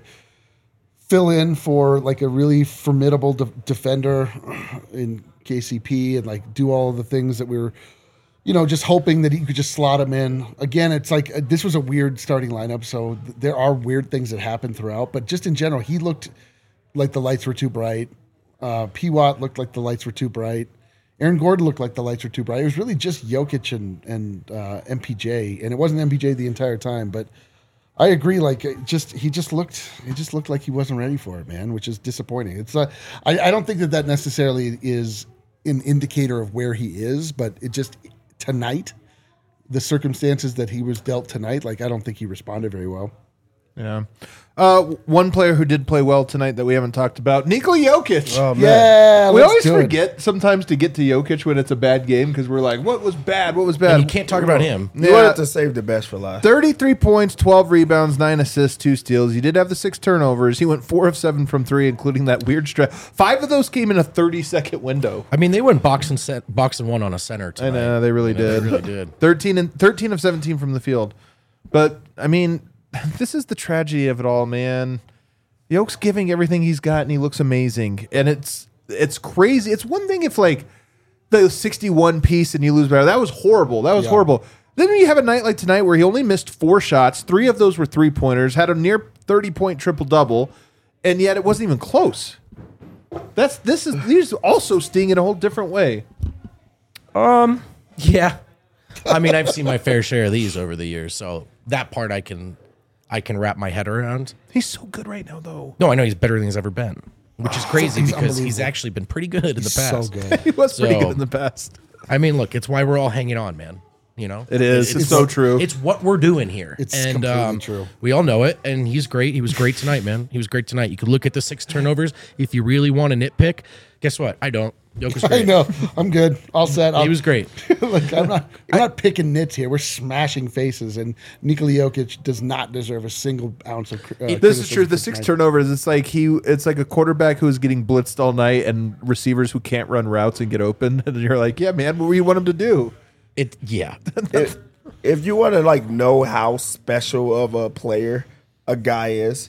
fill in for like a really formidable de- defender in K C P and like do all of the things that we were, you know, just hoping that he could just slot him in. Again, it's like uh, this was a weird starting lineup, so th- there are weird things that happen throughout. But just in general, he looked like the lights were too bright. Uh, P. Watt looked like the lights were too bright. Aaron Gordon looked like the lights were too bright. It was really just Jokic and and uh, M P J, and it wasn't M P J the entire time. But I agree. Like, it just he just looked he just looked like he wasn't ready for it, man, which is disappointing. It's uh, I I don't think that that necessarily is an indicator of where he is, but it just tonight, the circumstances that he was dealt tonight, like I don't think he responded very well. Yeah. Uh, one player who did play well tonight that we haven't talked about, Nikola Jokic. Oh, man. Yeah, we let's always do it. forget sometimes to get to Jokic when it's a bad game because we're like, what was bad? What was bad? And you can't talk about him. You Yeah. wanted to save the best for last. thirty-three points, twelve rebounds, nine assists, two steals. He did have the six turnovers. He went four of seven from three, including that weird stretch. Five of those came in a thirty-second window. I mean, they went box and set, box and one on a center I tonight. know, they really You know, did. They really did. thirteen and thirteen of seventeen from the field. But, I mean, this is the tragedy of it all, man. Yoke's giving everything he's got, and he looks amazing. And it's it's crazy. It's one thing if, like, the sixty-one piece and you lose by that was horrible. That was Yeah. horrible. Then you have a night like tonight where he only missed four shots. Three of those were three-pointers, had a near thirty-point triple-double, and yet it wasn't even close. That's this is these also sting in a whole different way. Yeah. I mean, I've seen my fair share of these over the years, so that part I can I can wrap my head around. He's so good right now, though. No, I know he's better than he's ever been, which is crazy He's because he's unbelievable. actually been pretty good in the He's past. so good. He was pretty So- good in the past. I mean, look, it's why we're all hanging on, man. You know, It is. It's so true. It's what we're doing here. It's and, completely um, true. We all know it, and he's great. He was great tonight, man. He was great tonight. You could look at the six turnovers if you really want to nitpick. Guess what? I don't. Jokic was I great. know. I'm good. All set. He I'll- was great. like I'm not. I'm not picking nits here. We're smashing faces, and Nikola Jokic does not deserve a single ounce of. Uh, This is true. criticism The for six tonight. turnovers. It's like he. It's like a quarterback who is getting blitzed all night, and receivers who can't run routes and get open. And you're like, yeah, man, what do you want him to do? It. Yeah. if, if you want to like know how special of a player a guy is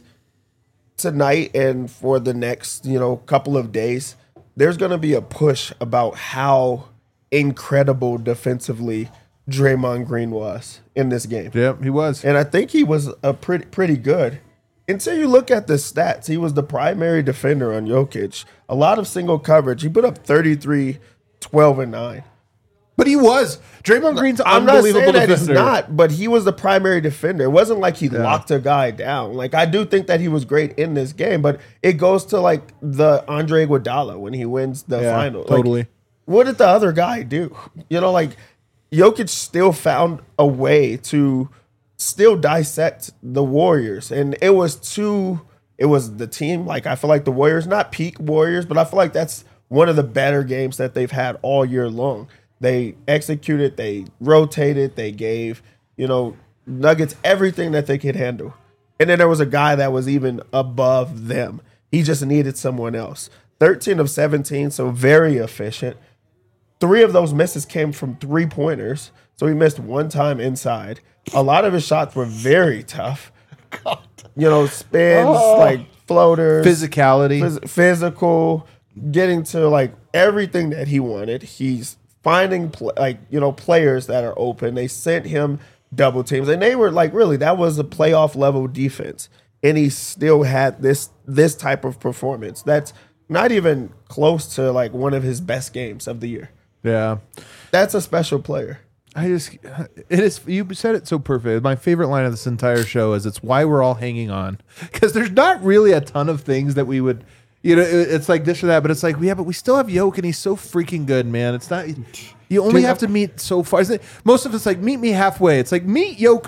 tonight and for the next, you know, couple of days, there's going to be a push about how incredible defensively Draymond Green was in this game. Yeah, he was. And I think he was a pretty pretty good. Until you look at the stats, he was the primary defender on Jokic. A lot of single coverage. He put up thirty-three, twelve, and nine. But he was. Draymond Green's I'm not unbelievable saying that he's defender. not, but he was the primary defender. It wasn't like he locked a guy down. Like I do think that he was great in this game, but it goes to like the Andre Iguodala when he wins the Yeah, final. Like, totally. what did the other guy do? You know, like Jokic still found a way to still dissect the Warriors, and it was too. It was the team. Like I feel like the Warriors, not peak Warriors, but I feel like that's one of the better games that they've had all year long. They executed, they rotated, they gave, you know, Nuggets everything that they could handle. And then there was a guy that was even above them. He just needed someone else. thirteen of seventeen, so very efficient. Three of those misses came from three-pointers, so he missed one time inside. A lot of his shots were very tough. You know, spins, like floaters. Physicality. Phys- physical, getting to like everything that he wanted. He's finding pl- like you know players that are open. They sent him double teams, and they were like really that was a playoff level defense, and he still had this this type of performance. That's not even close to like one of his best games of the year. Yeah. That's a special player. I just, it is, you said it so perfect. My favorite line of this entire show is it's why we're all hanging on. Because there's not really a ton of things that we would, you know, it- it's like this or that, but it's like, yeah, but we still have Yoke and he's so freaking good, man. It's not, you only Dude, have to meet so far. Isn't it- Most of it's like, meet me halfway. It's like, meet Yoke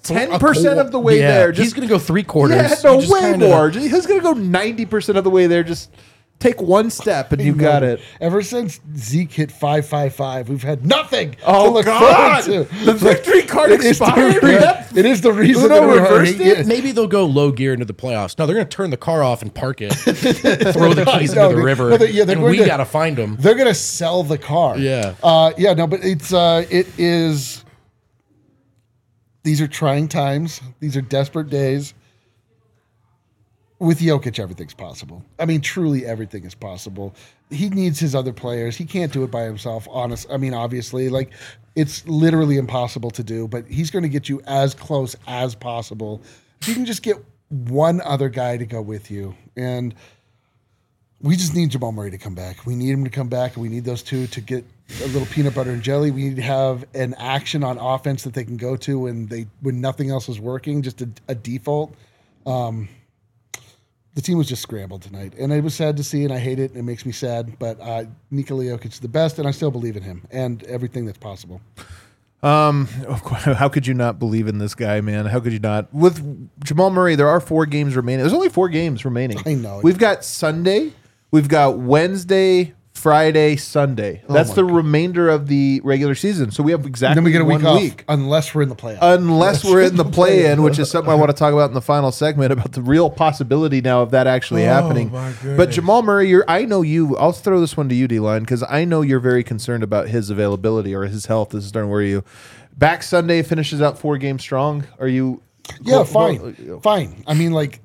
ten percent of the way Yeah, there. he's going to go three quarters. Yeah, no, You just way kinda- more. He's going to go ninety percent of the way there. Just take one step and you got it. Ever since Zeke hit five five five, we've had nothing Oh, to look God. forward to. The victory card It is the- expired. yeah, It is the reason Uno that we're reversed hurting. it? Maybe they'll go low gear into the playoffs. No, they're going to turn the car off and park it, throw the keys No, into the they- river, no, they- yeah, they're and going we to- got to find them. They're gonna sell the car. Yeah. Uh, yeah. No, but it's uh, it is. These are trying times. These are desperate days. With Jokic, everything's possible. I mean, truly, everything is possible. He needs his other players. He can't do it by himself. Honest. I mean, obviously, like it's literally impossible to do. But he's going to get you as close as possible. If you can just get one other guy to go with you, and we just need Jamal Murray to come back. We need him to come back, and we need those two to get a little peanut butter and jelly. We need to have an action on offense that they can go to when they when nothing else is working, just a, a default. Um, the team was just scrambled tonight, and it was sad to see, and I hate it, and it makes me sad. But uh, Nikola Jokic is the best, and I still believe in him and everything that's possible. Um, how could you not believe in this guy, man? How could you not? With Jamal Murray, there are four games remaining. There's only four games remaining. I know. We've got Sunday, we've got Wednesday, Friday, Sunday. That's my the remainder of the regular season. So we have exactly Then we get a one week off, week. unless we're in the playoffs. Unless we're in the play-in, which is something I want to talk about in the final segment about the real possibility now of that actually happening. But Jamal Murray, you're, I know you. I'll throw this one to you, D-Line, because I know you're very concerned about his availability or his health. This is starting to worry you. Back Sunday, finishes out four games strong. Are you? Yeah, go- fine, go- fine. I mean, like,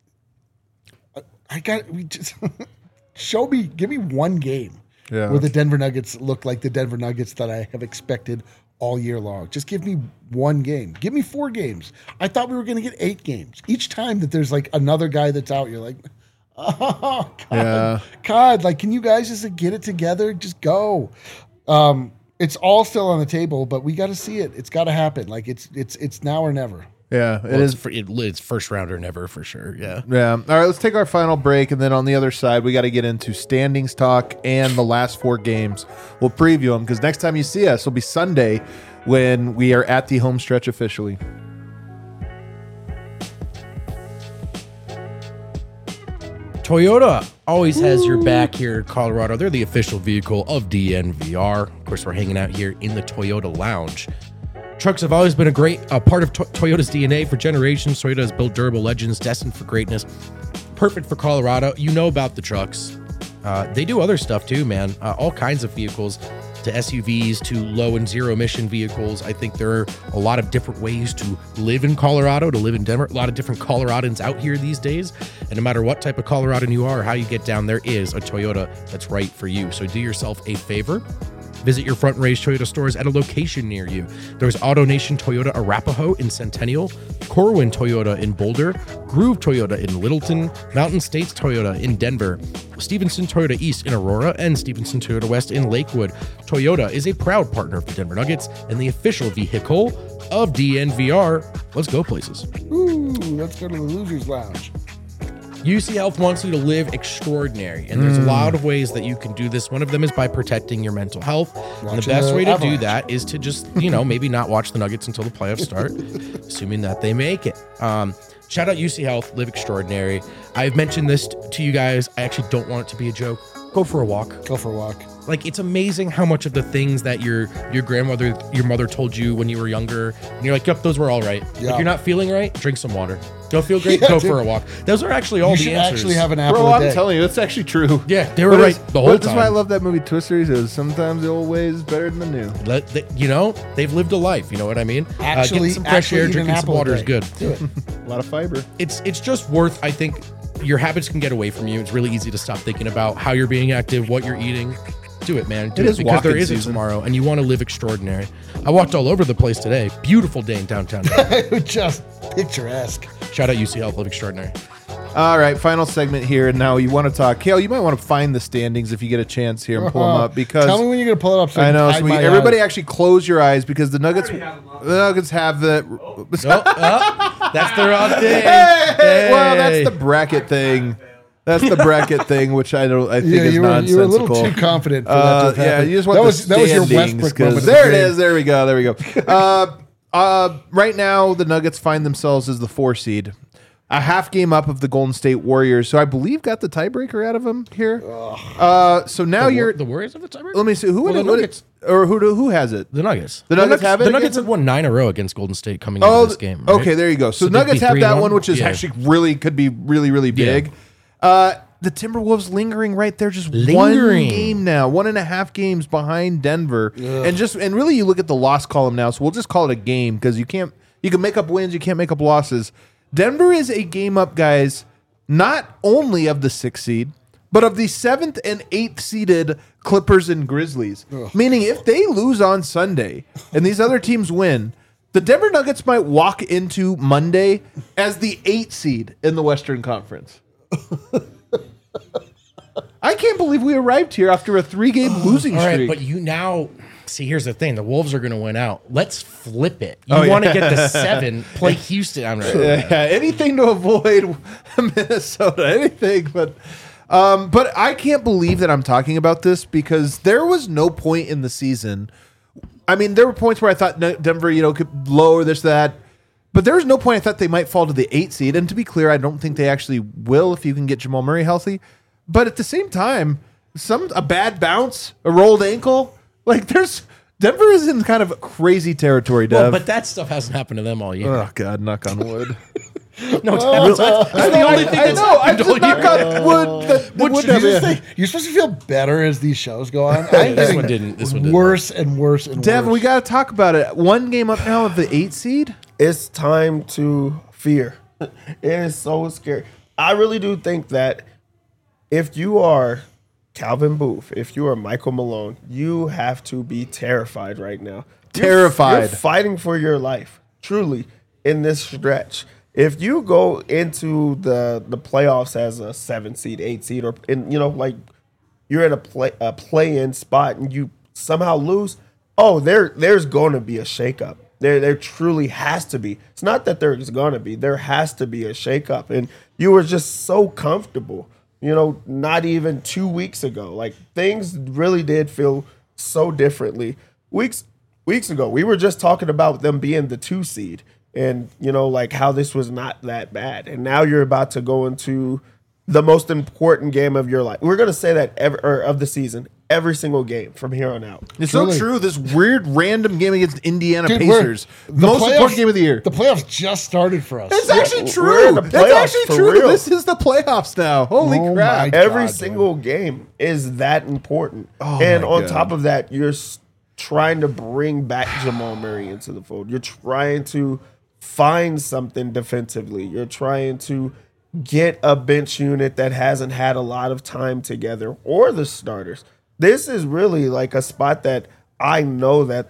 I- I got we just show me, give me one game Yeah. where the Denver Nuggets look like the Denver Nuggets that I have expected all year long. Just give me one game. Give me four games. I thought we were going to get eight games. Each time that there's like another guy that's out, you're like, oh God, Yeah. God, like, can you guys just like, get it together? Just go. Um, it's all still on the table, but we got to see it. It's got to happen. Like it's it's it's now or never. Yeah, it Well, is. it's, for, it, it's first rounder never for sure. Yeah. Yeah. All right, let's take our final break, and then on the other side, we got to get into standings talk and the last four games. We'll preview them because next time you see us will be Sunday when we are at the home stretch officially. Toyota always has your back here in Colorado. They're the official vehicle of D N V R. Of course, we're hanging out here in the Toyota Lounge. Trucks have always been a great uh, part of to- Toyota's D N A for generations. Toyota has built durable legends destined for greatness. Perfect for Colorado. You know about the trucks. Uh, they do other stuff too, man. Uh, all kinds of vehicles, to S U Vs, to low and zero emission vehicles. I think there are a lot of different ways to live in Colorado, to live in Denver. A lot of different Coloradans out here these days. And no matter what type of Coloradan you are or how you get down, there is a Toyota that's right for you. So do yourself a favor. Visit your Front Range Toyota stores at a location near you. There's AutoNation Toyota Arapahoe in Centennial, Corwin Toyota in Boulder, Groove Toyota in Littleton, Mountain States Toyota in Denver, Stevenson Toyota East in Aurora, and Stevenson Toyota West in Lakewood. Toyota is a proud partner of the Denver Nuggets and the official vehicle of D N V R. Let's go places. Ooh, let's go to the Losers Lounge. U C Health wants you to live extraordinary, and there's a lot of ways that you can do this. One of them is by protecting your mental health. And the Watching best the way to Avalanche. do that is to just, you know, maybe not watch the Nuggets until the playoffs start, assuming that they make it. Um, shout out U C Health, live extraordinary. I've mentioned this to you guys. I actually don't want it to be a joke. Go for a walk. Go for a walk. Like, it's amazing how much of the things that your your grandmother, your mother told you when you were younger, and you're like, yep, those were all right. Yeah. If you're not feeling right, drink some water. Don't feel great, Yeah, go dude. for a walk. Those are actually all You the should answers. actually have an apple Bro, a I'm day. telling you, that's actually true. Yeah, they were But right it's- the whole but That's why I time. love that movie Twister. Is sometimes the old ways is better than the new. Let the, you know, they've lived a life. You know what I mean? uh, Actually- getting some fresh actually air, eat an drinking some apple a water is day. good. Do it. A lot of fiber. It's it's just worth. I think your habits can get away from you. It's really easy to stop thinking about how you're being active, what you're eating. Do it, man. Do It it, is because there walking is a season. tomorrow, and you want to live extraordinary. I walked all over the place today. Beautiful day in downtown. Just picturesque. Shout out U C Health, live extraordinary. All right, final segment here. And now you want to talk. Kale, you might want to find the standings if you get a chance here and pull them up because Tell me when you're going to pull it up. So I know. can So we, hide my everybody eyes. actually close your eyes because the Nuggets, the Nuggets have the. Oh, oh, that's the wrong thing. Hey, well, that's Hey. the bracket thing. That's the bracket thing, which I don't. I think Yeah, is you were, nonsensical. you were a little too confident for that to Uh, have yeah, happened. you just want that the was, that was your standings, Westbrook 'cause moment. of There the it game. is. There we go. There we go. Uh, Uh, right now, the Nuggets find themselves as the four seed, a half game up of the Golden State Warriors, who I believe got the tiebreaker out of them here. Uh, so now The, you're. War- the Warriors of the tiebreaker? let me see who Well, would the it, Nuggets. or who do- who has it? The Nuggets. The Nuggets have it The against Nuggets have them? won nine in a row against Golden State coming Oh, into this game. right? okay, there you go. So, So the they'd be Nuggets have three that and one, one? which is Yeah. actually really could be really really big. Uh, the Timberwolves lingering right there, just one Lingering. game now, one and a half games behind Denver, and just and really you look at the loss column now. So we'll just call it a game because you can't you can make up wins, you can't make up losses. Denver is a game up, guys, not only of the sixth seed, but of the seventh and eighth seeded Clippers and Grizzlies. Meaning, if they lose on Sunday and these other teams win, the Denver Nuggets might walk into Monday as the eighth seed in the Western Conference. I can't believe we arrived here after a three-game losing All right, streak. but you now see. Here's the thing: the Wolves are going to win out. Let's flip it. You Oh, yeah. want to get the seven? Play Houston. I'm not Yeah, anything to avoid Minnesota, anything. But, um, but I can't believe that I'm talking about this because there was no point in the season. I mean, there were points where I thought Ne- Denver, you know, could lower this, that, but there was no point I thought they might fall to the eight seed. And to be clear, I don't think they actually will if you can get Jamal Murray healthy. But at the same time, some a bad bounce, a rolled ankle, like there's Denver is in kind of crazy territory, Dev. Well, but that stuff hasn't happened to them all year. oh God, knock on wood. no, that's, that's I, the only thing I that's know. I happened just all knock year. on wood. That, that What would you have just been- think? You're supposed to feel better as these shows go on. I'm This getting one didn't. This one didn't. worse and worse and Devin, worse. we got to talk about it. One game up now of the eight seed. It's time to fear. It is so scary. I really do think that if you are Calvin Booth, if you are Michael Malone, you have to be terrified right now. You're- Terrified. You're fighting for your life, truly, in this stretch. If you go into the the playoffs as a seven seed, eight seed, or in you know like you're in a play a play in spot and you somehow lose, oh, there there's going to be a shakeup. There there truly has to be. It's not that there's going to be. There has to be a shakeup. And you were just so comfortable. You know, not even two weeks ago. Like things really did feel so differently. Weeks weeks ago, we were just talking about them being the two seed. And, you know, like how this was not that bad. And now you're about to go into the most important game of your life. We're going to say that every, or of the season, every single game from here on out. It's Truly. so true. This weird random game against Indiana Dude, we're- Pacers, the most playoffs- important game of the year. The playoffs just started for us. It's actually we're true. in the That's playoffs actually for true. real. This is the playoffs now. Holy Oh crap! my Every God, single game is that important. Oh and my on God. top of that, you're s- trying to bring back Jamal Murray into the fold. You're trying to find something defensively. You're trying to get a bench unit that hasn't had a lot of time together or the starters. This is really like a spot that I know that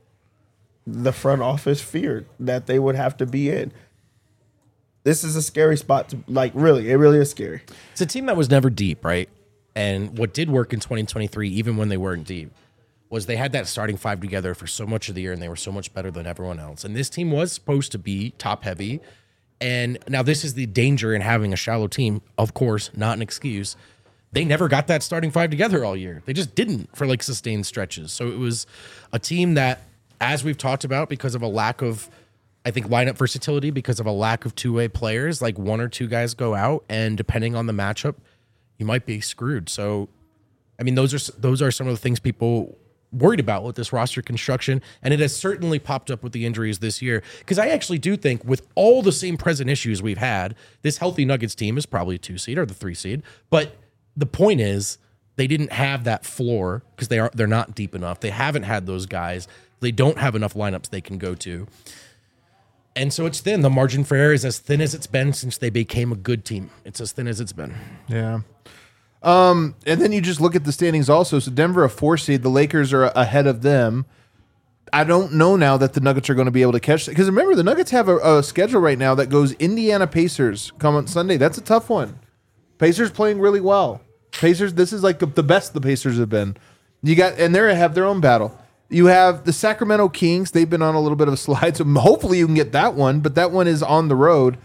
the front office feared that they would have to be in. This is a scary spot to like really, it really is scary. It's a team that was never deep, right? And what did work in twenty twenty-three, even when they weren't deep, was they had that starting five together for so much of the year, and they were so much better than everyone else. And this team was supposed to be top heavy. And now this is the danger in having a shallow team. Of course, not an excuse. They never got that starting five together all year. They just didn't for like sustained stretches. So it was a team that, as we've talked about, because of a lack of, I think, lineup versatility, because of a lack of two-way players, like one or two guys go out, and depending on the matchup, you might be screwed. So, I mean, those are those are some of the things people worried about with this roster construction, and it has certainly popped up with the injuries this year. Because I actually do think, with all the same present issues we've had, this healthy Nuggets team is probably a two seed or the three seed. But the point is, they didn't have that floor because they are they're not deep enough. They haven't had those guys. They don't have enough lineups they can go to. And so it's thin. The margin for error is as thin as it's been since they became a good team. It's as thin as it's been. Yeah. Um, and then you just look at the standings also. So Denver a four seed, the Lakers are ahead of them. I don't know now that the Nuggets are going to be able to catch it. Because remember, the Nuggets have a, a schedule right now that goes Indiana Pacers come on Sunday. That's a tough one. Pacers playing really well. Pacers, this is like the, the best the Pacers have been. You got, and they have their own battle. You have the Sacramento Kings. They've been on a little bit of a slide, so hopefully you can get that one. But that one is on the road.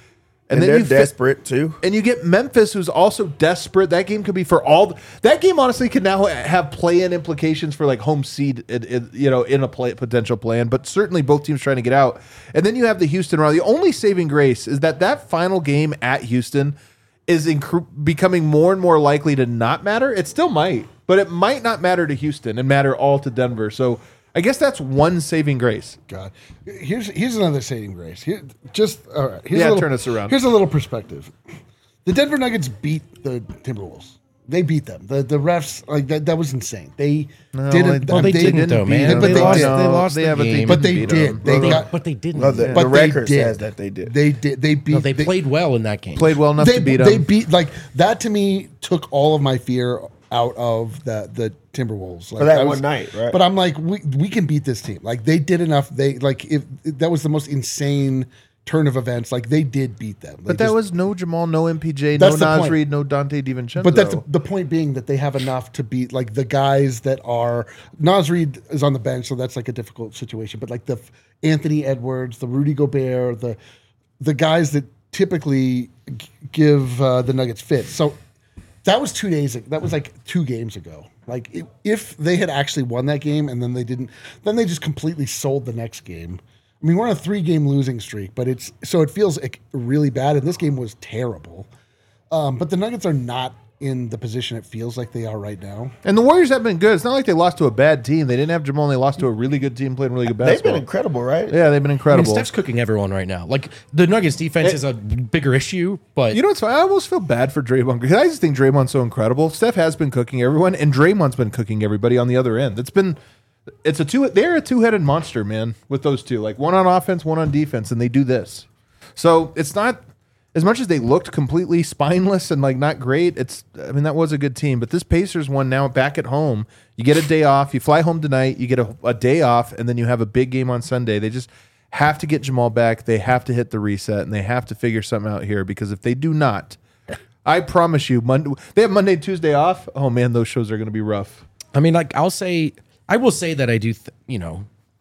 And, then they're you fi- desperate too. And you get Memphis, who's also desperate. That game could be for all. That game honestly could now have play-in implications for like home seed, in, in, you know, in a play, potential plan. But certainly both teams trying to get out. And then you have the Houston round. The only saving grace is that that final game at Houston is inc- becoming more and more likely to not matter. It still might, but it might not matter to Houston and matter all to Denver. So I guess that's one saving grace. God, here's here's another saving grace. Here, just all right. Here's Yeah, a little, turn us around. Here's a little perspective. The Denver Nuggets beat the Timberwolves. They beat them. The the refs like that. That was insane. They didn't. they- well, they, they didn't, though, beat man. them, They, but they lost. did. They lost They the have a game. team. But they beat did. them. They They- got. but they didn't. No, the, Yeah. But the they record did. says that they did. They did. They beat. No, they played well in that game. Played well enough They, to beat them. they beat like that. To me, took all of my fear out of the the Timberwolves like, For that I one night, right? But I'm like, we we can beat this team. Like they did enough. They like if that was the most insane turn of events. Like they did beat them. They But that just- was no Jamal, no M P J, no That's the Nas point. Reed, no Dante DiVincenzo. But that's the, the point being that they have enough to beat like the guys that are Nas Reed is on the bench, so that's like a difficult situation. But like the Anthony Edwards, the Rudy Gobert, the the guys that typically g- give uh, the Nuggets fits. So that was two days. That was like two games ago. Like if, if they had actually won that game and then they didn't, then they just completely sold the next game. I mean, we're on a three-game losing streak, but it's so it feels like really bad. And this game was terrible. Um, but the Nuggets are not in the position it feels like they are right now. And the Warriors have been good. It's not like they lost to a bad team. They didn't have Jamal, and they lost to a really good team playing really good They've basketball. been incredible, right? Yeah, they've been I mean, incredible. Steph's cooking everyone right now. Like the Nuggets defense is a bigger issue, but You know what's funny? I almost feel bad for Draymond because I just think Draymond's so incredible. Steph has been cooking everyone, and Draymond's been cooking everybody on the other end. It's been, it's a two. They're a two-headed monster, man. With those two, like one on offense, one on defense, and they do this. So it's not as much as they looked completely spineless and like not great. It's, I mean, that was a good team, but this Pacers one now back at home. You get a day off. You fly home tonight. You get a, a day off, and then you have a big game on Sunday. They just have to get Jamal back. They have to hit the reset, and they have to figure something out here because if they do not, I promise you, Monday they have Monday, Tuesday off. Oh man, those shows are going to be rough. I mean, like I'll say, I will say that I do, th- you know,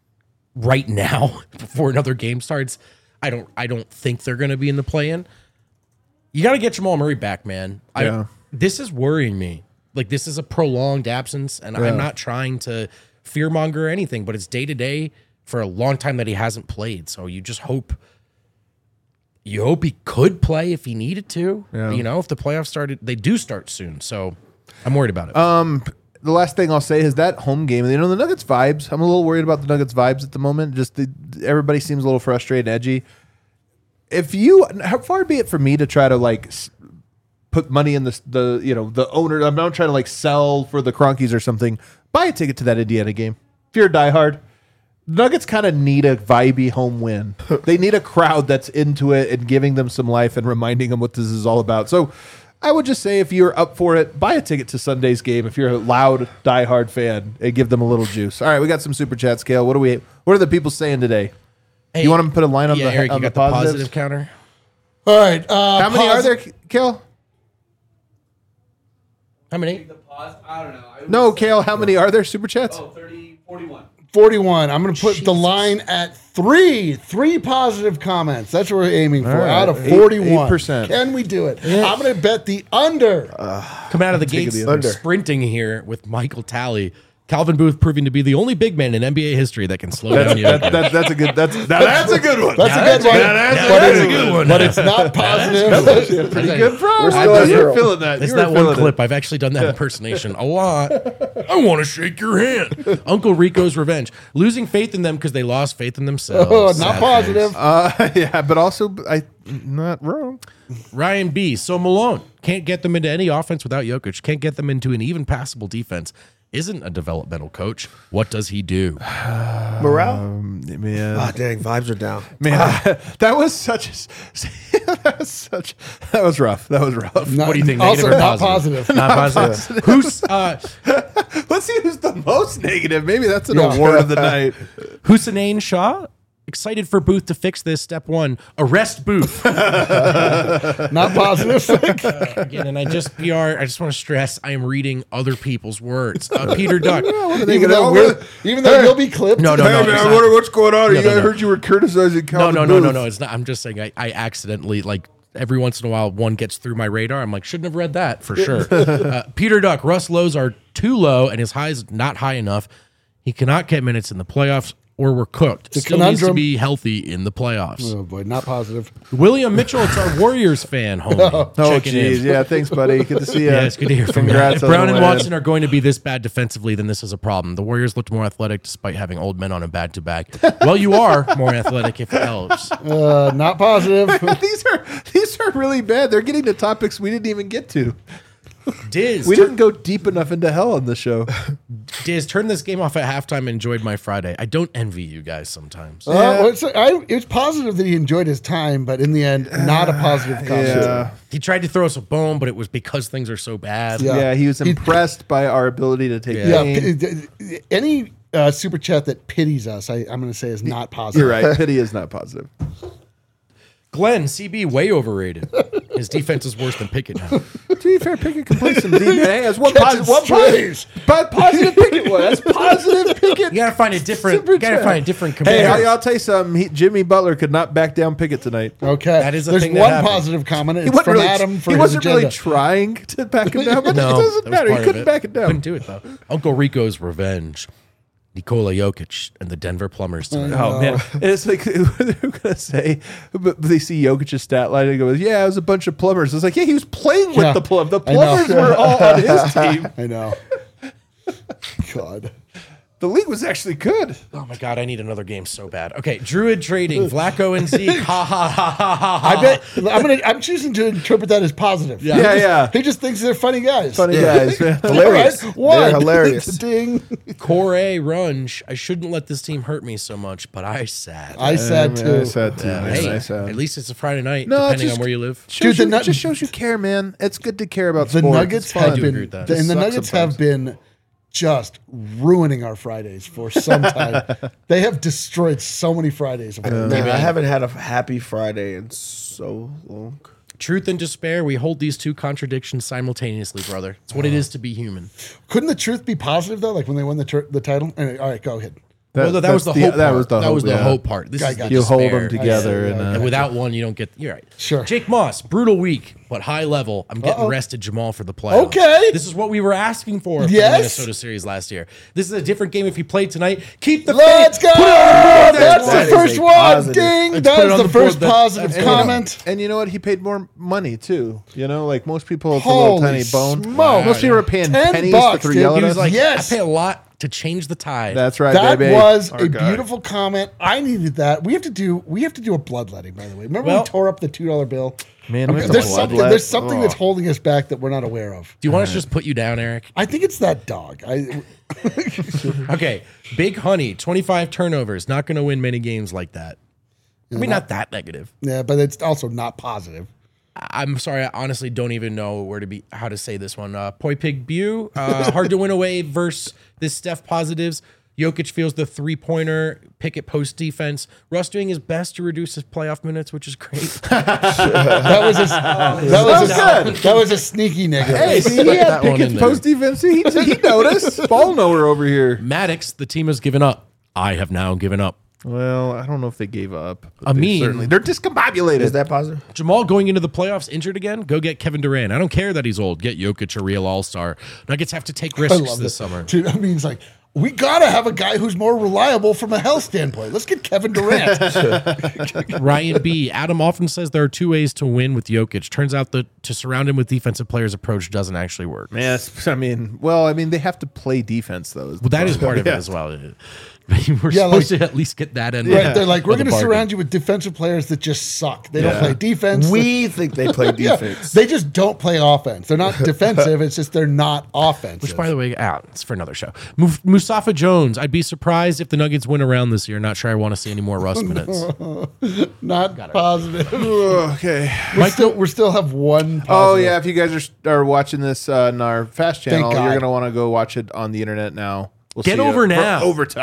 right now before another game starts, I don't, I don't think they're going to be in the play-in. You got to get Jamal Murray back, man. I, Yeah. This is worrying me. Like this is a prolonged absence, and I'm not trying to fearmonger or anything, but it's day to day for a long time that he hasn't played. So you just hope, you hope he could play if he needed to. Yeah. You know, if the playoffs started, they do start soon. So I'm worried about it. Um, the last thing I'll say is that home game. You know, the Nuggets vibes. I'm a little worried about the Nuggets vibes at the moment. Just the, everybody seems a little frustrated, and edgy. If you, how far be it for me to try to like s- put money in the the you know the owner. I'm not trying to like sell for the Cronkies or something. Buy a ticket to that Indiana game if you're a diehard. Nuggets kind of need a vibey home win. They need a crowd that's into it and giving them some life and reminding them what this is all about. So I would just say if you're up for it, buy a ticket to Sunday's game if you're a loud, diehard fan and give them a little juice. All right, we got some super chat scale. What are we? What are the people saying today? Hey, you want them to put a line on yeah, the Eric, on you the got the positives? positive counter. All right. Uh, How many are posi- there, Kale? How many? The pause, I don't know. I would No, say- Kale. How many are there? Super chats? Oh, thirty, forty-one. forty-one. I'm going to put the Jesus. line at three. Three positive comments. That's what we're aiming for. All right. Out of Eight- forty-one. eight percent. Can we do it? I'm going to bet the under. Come out of the Take gates the under. sprinting here with Michael Talley. Calvin Booth proving to be the only big man in N B A history that can slow down That, Jokic. that, that's a good. That's now that's a good one. That's a good one. that's- but that's it's, a good one. But it's not positive. Pretty good, bro. We're I still know at you're zero. feeling that. It's You were that one feeling it. clip. I've actually done that impersonation a lot. I want to shake your hand. Uncle Rico's revenge. Losing faith in them because they lost faith in themselves. Oh, not Sad positive. face. Uh, yeah, but also I not wrong. Ryan B. So Malone can't get them into any offense without Jokic. Can't get them into an even passable defense. Isn't a developmental coach. What does he do? Morale? Man, Ah, dang, vibes are down. man, that was such. A, that was such. That was rough. That was rough. Not- What do you think? Also, Negative or not positive? positive. Not positive. Who's uh, Let's see who's the most negative. Maybe that's an Yeah. award of the night. Hussein Shah? Excited for Booth to fix this. Step one: arrest Booth. Not positive. Again, and I just P R. I just want to stress: I am reading other people's words. Uh, Peter Duck. even though, we're, even though you'll be clipped. No, no, Hey no. man, it's I not. wonder what's going on. No, you no, I no. heard you were criticizing No, Calvin no, no, no, Booth. no. It's not. I'm just saying. I, I accidentally like every once in a while one gets through my radar. I'm like, shouldn't have read that for sure. uh, Peter Duck, Russ lows are too low and his highs not high enough. He cannot get minutes in the playoffs or we're cooked. It's a Still needs to conundrum. be healthy in the playoffs. Oh boy, not positive. William Mitchell, it's our Warriors fan, homie. Oh, Checking jeez. in. Yeah, thanks, buddy. Good to see you. Yeah, it's good to hear from Congrats you. on If Brown the and win. Watson are going to be this bad defensively, then this is a problem. The Warriors looked more athletic despite having old men on a back-to-back. Well, you are more athletic if it helps. Uh, not positive. these are these are really bad. They're getting to topics we didn't even get to. Diz, We tur- didn't go deep enough into hell on the show. Diz, turn this game off at halftime and enjoyed my Friday. I don't envy you guys sometimes. Uh, well, it's, I, it's positive that he enjoyed his time, but in the end, not a positive comment. Yeah. He tried to throw us a bone, but it was because things are so bad. Yeah. Yeah, he was He- impressed by our ability to take Yeah, pain. p- any uh, super chat that pities us, I, I'm going to say is not positive. You're right. Pity is not positive. Glenn, C B, way overrated. His defense is worse than Pickett now. To be fair, Pickett completes some deep. Hey, that's one Catching positive. One strays. positive, but positive Pickett was. That's positive Pickett. You gotta find a different. Super You gotta chat. find a different Hey, comparison. I'll, I'll tell you something. He, Jimmy Butler could not back down Pickett tonight. Okay. That is a There's thing that one happened. positive comment. He It's wasn't from really, Adam for he his wasn't really agenda. trying to back him down, but No, it that doesn't was matter. He part of couldn't it. back it down. Couldn't do it though. Uncle Rico's revenge. Nikola Jokic and the Denver Plumbers tonight. Oh man, it's like they're gonna say, but they see Jokic's stat line and go, "Yeah, it was a bunch of plumbers." It's like, yeah, he was playing with Yeah, the plum. The I know. plumbers were all on his team. I know. God. The league was actually good. Oh my god, I need another game so bad. Okay, Druid trading Flacco and Zeke. Ha ha ha ha ha. I bet I'm gonna. I'm choosing to interpret that as positive. Yeah, He just, yeah. He just thinks they're funny guys. Funny Yeah. guys, man. Hilarious. All right, one. They're hilarious. Ding. Corey Runge. I shouldn't let this team hurt me so much, but I sad. I said man, too. I said too. Yeah, man. hey, I said. at least it's a Friday night, No, depending just- on where you live. Shows Dude, the you, Nug- it just shows you care, man. It's good to care about The sports. Nuggets It's fun. have do been, agree with that. the- and the Sucks Nuggets sometimes. have been just ruining our Fridays for some time. They have destroyed so many Fridays. Man, I haven't had a happy Friday in so long. Truth and despair, we hold these two contradictions simultaneously, brother. It's what it is to be human. Couldn't the truth be positive though? Like when they won the tur the title. Anyway, all right, go ahead. well, that, that was the that's hope that part. was the that hope, was the yeah. hope part. This I is got the You hold despair. them together, I see, and yeah, uh, And without one, you don't get. You're right. Sure. Jake Moss, brutal week, but high level. I'm getting Uh-oh. rested Jamal for the playoffs. Okay. This is what we were asking for for Yes. the Minnesota series last year. This is a different game if he played tonight. Keep the Let's faith. go! Put it on the board. That's That the is first a one. positive. Ding! Let's put it That's on the the first board. That- positive that's- and you know- comment. And you know what? He paid more money too. You know, like most people, it's a Holy little tiny bone. smokes. Most people are paying Ten pennies bucks, to throw dude. yell at He was us. like, Yes. I pay a lot to change the tide. That's right, That baby. was Our a guy. beautiful comment. I needed that. We have to do. We have to do a bloodletting. By the way, remember Well- we tore up the two dollar bill. Man, Okay, we have to there's bloodlet. something. There's something Oh. that's holding us back that we're not aware of. Do you want us to just put you down, Eric? I think it's that dog. I Okay. Big Honey, twenty-five turnovers. Not going to win many games like that. I mean, not that negative. yeah, but it's also not positive. I'm sorry, I honestly don't even know where to be, how to say this one. Uh, Poi Pig Bew, uh, hard to win away versus this Steph positives. Jokic feels the three pointer, Pickett post defense. Russ doing his best to reduce his playoff minutes, which is great. That was a, that was a, good. that was a sneaky negative. Hey, see, he That had one in Pickett's there. post defense. He, he noticed. Ball knower over here. Maddox, the team has given up. I have now given up. Well, I don't know if they gave up. but I they mean- certainly- they're discombobulated. Is that positive? Jamal going into the playoffs injured again? Go get Kevin Durant. I don't care that he's old. Get Jokic a real all star. Nuggets have to take I risks love this this summer. Dude, I mean, it's like we gotta have a guy who's more reliable from a health standpoint. Let's get Kevin Durant. Ryan B. Adam often says there are two ways to win with Jokic. Turns out that to surround him with defensive players approach doesn't actually work. Man, it's- I mean, well, I mean, they have to play defense though. Well, that is part of it Yeah. as well. We're Yeah, supposed like- to at least get that end. Right? They're like, we're of the going to bargain. surround you with defensive players that just suck. They don't Yeah. play defense. We think they play Yeah, defense. they just don't play offense. They're not defensive. It's just they're not offensive. Which, by the way, out. It's for another show. Muf- Mustafa Jones. I'd be surprised if the Nuggets win around this year. Not sure I want to see any more Russ minutes. not positive. Okay. we still we still have one. Positive. Oh yeah, if you guys are are watching this uh, on our Fast channel, Thank you're God. gonna want to go watch it on the internet now. We'll Get see you over for now. overtime.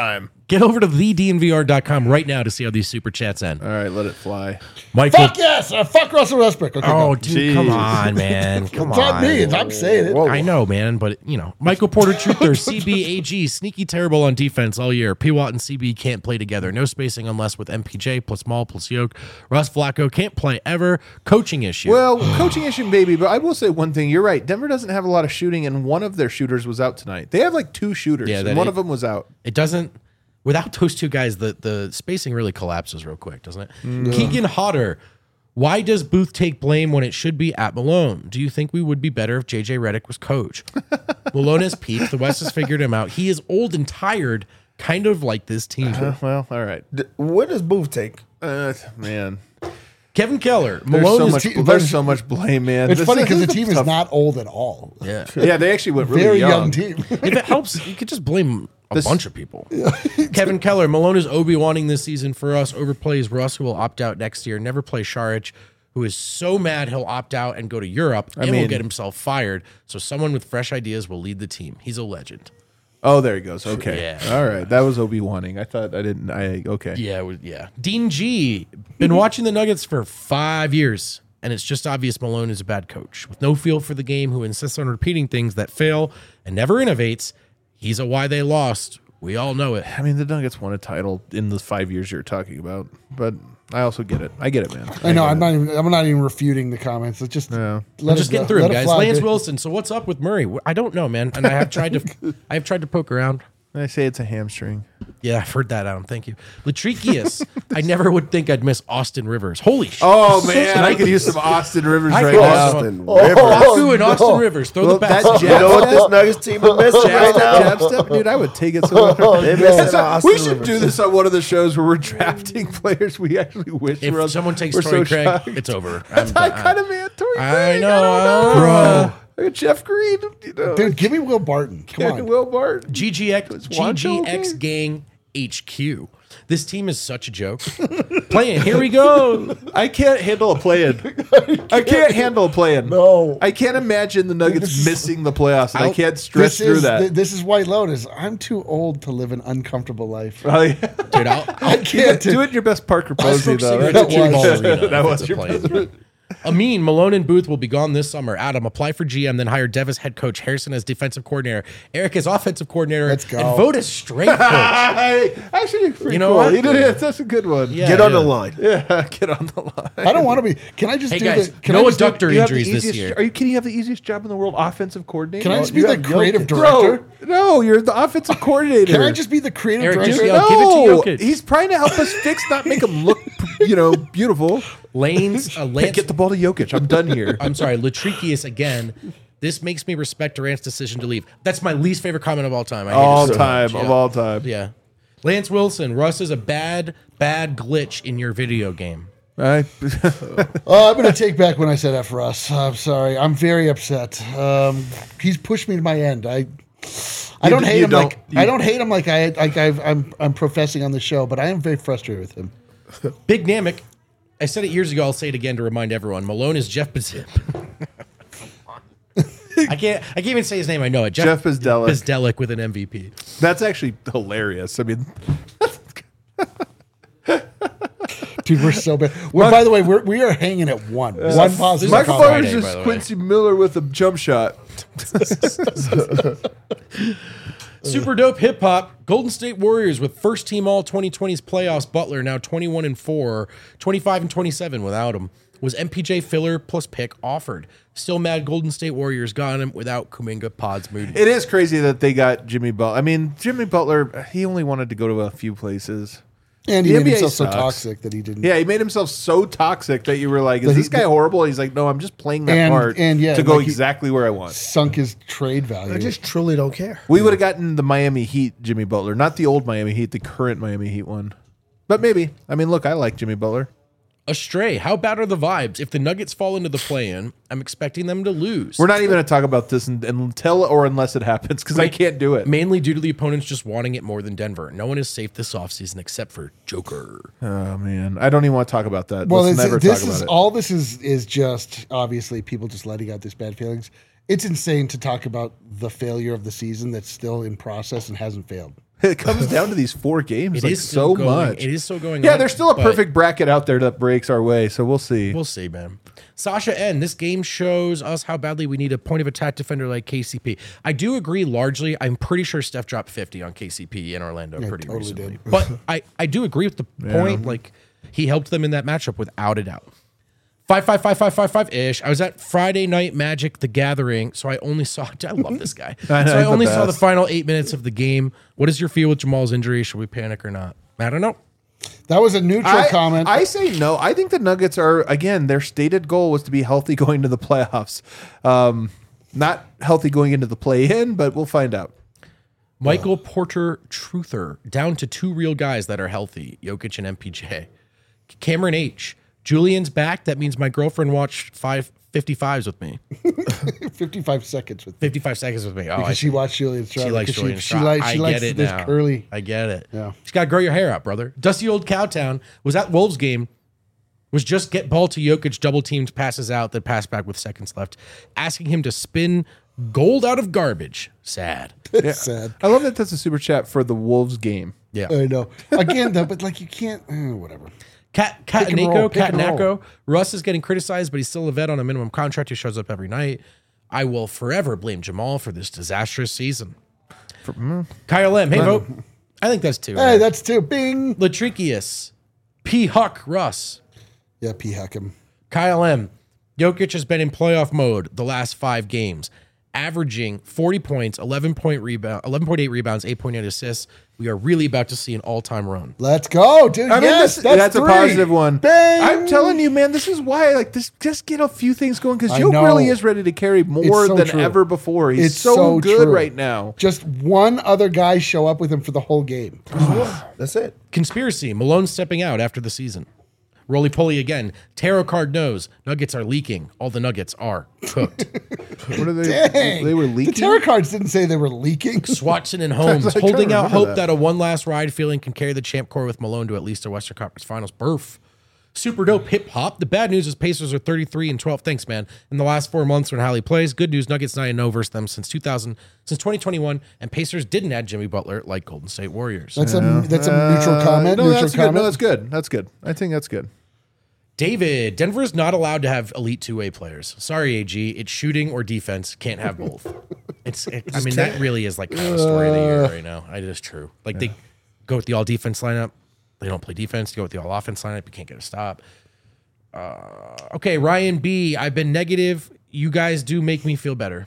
Get over to the D N V R dot com right now to see how these super chats end. All right, let it fly. Michael. Fuck yes! Uh, fuck Russell Westbrook. Okay, Oh, go. dude, come Jeez. on, man. Come It's not on. me. It's, I'm saying it. I know, man, but you know, Michael Porter Truther, C B A G, sneaky terrible on defense all year. P. Watt and C B can't play together. No spacing unless with M P J plus Maul plus Yoke. Russ Flacco can't play ever. Coaching issue. Well, coaching issue maybe, but I will say one thing. You're right. Denver doesn't have a lot of shooting, and one of their shooters was out tonight. They have like two shooters, Yeah, and that one it- of them was out. it doesn't. Without those two guys, the, the spacing really collapses real quick, doesn't it? Keegan Hodder. Why does Booth take blame when it should be at Malone? Do you think we would be better if J J Redick was coach? Malone has peaked. The West has figured him out. He is old and tired, kind of like this team. Uh, well, all right. D- What does Booth take? Uh, man, Kevin Keller. there's Malone so is much. te- There's so much blame, man. It's This funny is- because the this team is tough. not old at all. yeah. Yeah, they actually went really Very young, young. team. If it helps, you could just blame a This- bunch of people. Kevin Keller, Malone is Obi-Wanning this season for us. Overplays Russ, who will opt out next year. Never play Šarić, who is so mad he'll opt out and go to Europe and will mean- get himself fired. So someone with fresh ideas will lead the team. He's a legend. Oh, there he goes. Okay. Yeah. All right. That was Obi wanting. I thought I didn't. I okay. Yeah, it was- yeah. Dean G, been watching the Nuggets for five years, and it's just obvious Malone is a bad coach with no feel for the game, who insists on repeating things that fail and never innovates. He's a why they lost. We all know it. I mean, the Nuggets won a title in the five years you're talking about, but I also get it. I get it, man. I know. get I'm it. not even. I'm not even refuting the comments. It's just. Yeah. Let I'm it just go. getting through Let him, it guys. fly, Lance dude. Wilson. So what's up with Murray? I don't know, man. And I have tried to, I have tried to poke around. I say it's a hamstring. Yeah, I've heard that, Adam. Thank you. Latrikius. I never would think I'd miss Austin Rivers. Holy shit. Oh man, I could use some Austin Rivers I right could now. also- Austin Oh, Rivers. Baku and no. Austin Rivers. Throw Well, the that bats. jab- You know what this Nuggets team is missing right Jab now? step, jab step, dude. I would take it so much. They're That's missing a- Austin we should Rivers. do this on one of the shows where we're drafting players we actually wish If were. someone takes we're Torrey so Craig, shocked. it's over. That's I'm I done. kind of man. Torrey I Craig. know, I don't know, bro. Look at Jeff Green. You know, Dude, give me Will Barton. Come yeah, on. Will Barton. G G X, Juancho G G X okay? Gang H Q. This team is such a joke. Playing, here we go. I can't handle a play-in. I can't handle a play-in. No. I can't imagine the Nuggets This is- missing the playoffs, and I I'll- can't stress This through is that. th- this is White Lotus. I'm too old to live an uncomfortable life. Oh, yeah. Dude, I'll, I can't do it in your best Parker I'll Posey, smoke though. cigarettes That at Jim Ball was- Arena. that if was it's a your play-in. Amin, Malone, and Booth will be gone this summer. Adam, apply for G M, then hire Dev as head coach, Harrison as defensive coordinator, Eric as offensive coordinator, Let's go. and vote as strength coach. Hey, actually, pretty You know cool. what? He did it. That's a good one. Yeah, Get on yeah. the line. Yeah, get on the line. I don't want to be. Can I just Hey, do guys, the? Can no I just do- adductor You have the injuries this easiest- year. Are you kidding? You have the easiest job in the world, offensive coordinator. Can I just be you the have creative Jokic. director? Bro, no, you're the offensive coordinator. Can I just be the creative Eric, just director? yell, no, give it to Jokic. he's trying to help us fix, not make him look, you know, beautiful. Lane's, uh, Hey, Lance, get the ball to Jokic. I'm done here. I'm sorry, Latrikius again. This makes me respect Durant's decision to leave. That's my least favorite comment of all time. I hate it all so time, much. of Yeah. all time. Yeah. Lance Wilson, Russ is a bad, bad glitch in your video game. I, Oh, I'm going to take back when I said that for us. I'm sorry. I'm very upset. Um, he's pushed me to my end. I I You don't d- hate you him don't- like you- I don't hate him like I like I've, I'm I'm professing on the show, but I am very frustrated with him. Big Namek. I said it years ago. I'll say it again to remind everyone. Malone is Jeff Bezip. I can't. I can't even say his name. I know it. Jeff Bzdelic. Bzdelic with an M V P. that's actually hilarious. I mean, Dude, we're so bad. Well, by the way, we're we are hanging at one. One positive. Michael comment. Myers Friday, is by the way. Quincy Miller with a jump shot. Super dope hip hop. Golden State Warriors with first team all twenty twenties playoffs. Butler now twenty-one and four, twenty-five and twenty-seven without him. Was M P J filler plus pick offered? Still mad Golden State Warriors got him without Kuminga, Pods, Moody. It is crazy that they got Jimmy Butler. I mean, Jimmy Butler, he only wanted to go to a few places. And he The made N B A himself so sucks. toxic that he didn't. Yeah, he made himself so toxic that you were like, is That he- this guy horrible? He's like, no, I'm just playing that And- part and yeah, to go like he- exactly where I want. Sunk his trade value. I just truly don't care. We would have gotten the Miami Heat Jimmy Butler, not the old Miami Heat, the current Miami Heat one. But maybe. I mean, look, I like Jimmy Butler. Astray. How bad are the vibes? If the Nuggets fall into the play-in, I'm expecting them to lose. We're not even going to talk about this un- until or unless it happens because I can't do it. Mainly due to the opponents just wanting it more than Denver. No one is safe this offseason except for Joker. Oh, man. I don't even want to talk about that. well, Let's it's, never this talk about is it. all. This is is just obviously people just letting out these bad feelings. It's insane to talk about the failure of the season that's still in process and hasn't failed. It comes down to these four games. It like is still so going, much. It is still going. Yeah, on, there's still a but perfect bracket out there that breaks our way. So we'll see. We'll see, man. Sasha N. This game shows us how badly we need a point of attack defender like K C P. I do agree largely. I'm pretty sure Steph dropped fifty on K C P in Orlando pretty totally recently. did. But I, I do agree with the point. Like he helped them in that matchup without a doubt. Five, five, five, five, five, five ish. I was at Friday Night Magic: The Gathering, so I only saw. I love this guy. I know, so I he's the only saw the best. final eight minutes of the game. What is your feel with Jamal's injury? Should we panic or not? I don't know. That was a neutral I, comment. I say no. I think the Nuggets are, again, their stated goal was to be healthy going to the playoffs. Um, not healthy going into the play-in, but we'll find out. Michael Porter Truther, down to two real guys that are healthy, Jokic and M P J. Cameron H. Julian's back. That means my girlfriend watched five fifty-fives with me. fifty-five seconds with fifty-five seconds with me. Oh, I because she watched Julian Straub. She likes because Julian she, she, Straub. likes, I she get likes it this now. curly. I get it. Yeah. She's got to grow your hair out, brother. Dusty old Cowtown was at Wolves game. Was just get ball to Jokic, double teamed, passes out, then pass back with seconds left, asking him to spin gold out of garbage. Sad. It's sad. I love that that's a super chat for the Wolves game. Yeah. I know. Again, though, but like you can't. Eh, whatever. Cat Pick and roll, Cataneko, pick and roll. Cataneko. Russ is getting criticized, but he's still a vet on a minimum contract who shows up every night. I will forever blame Jamal for this disastrous season. Kyle M. Hey, vote. I think that's two. Hey, that's two. Bing. Latrikius. P. Huck Russ. Yeah, P. Huckham. Kyle M. Jokic has been in playoff mode the last five games, averaging forty points, eleven point rebound, eleven point eight rebounds, eight point eight assists. We are really about to see an all-time run. Let's go, dude. I mean, yes, this, that's, that's, three. a positive one. Bang. I'm telling you, man, this is why, like, this just get a few things going because I Joe know. really is ready to carry more It's so than true. ever before. He's It's so, so good true. right now. Just one other guy show up with him for the whole game. That's it. Conspiracy. Malone stepping out after the season. Roly poly again. Tarot card knows. Nuggets are leaking. All the Nuggets are cooked. What are they? Dang. They were The leaking. tarot cards didn't say they were leaking. Swatson and Holmes I was, like, holding trying to out remember hope that. that. a one last ride feeling can carry the champ core with Malone to at least a Western Conference Finals berth. Super dope hip hop. The bad news is Pacers are thirty-three and twelve. Thanks, man. In the last four months when Hallie plays. Good news, Nuggets nine and oh versus them since two thousand, since twenty twenty-one, and Pacers didn't add Jimmy Butler like Golden State Warriors. That's a that's a neutral comment. Uh, No, neutral that's good. comment. No, that's good. That's good. I think that's good. David, Denver is not allowed to have elite two-way players. Sorry, A G. It's shooting or defense. Can't have both. It's. It, I mean, that really is like the story of the year right now. It is true. Like they go with the all defense lineup. They don't play defense. They go with the all offense lineup. You can't get a stop. Uh, okay, Ryan B. I've been negative. You guys do make me feel better.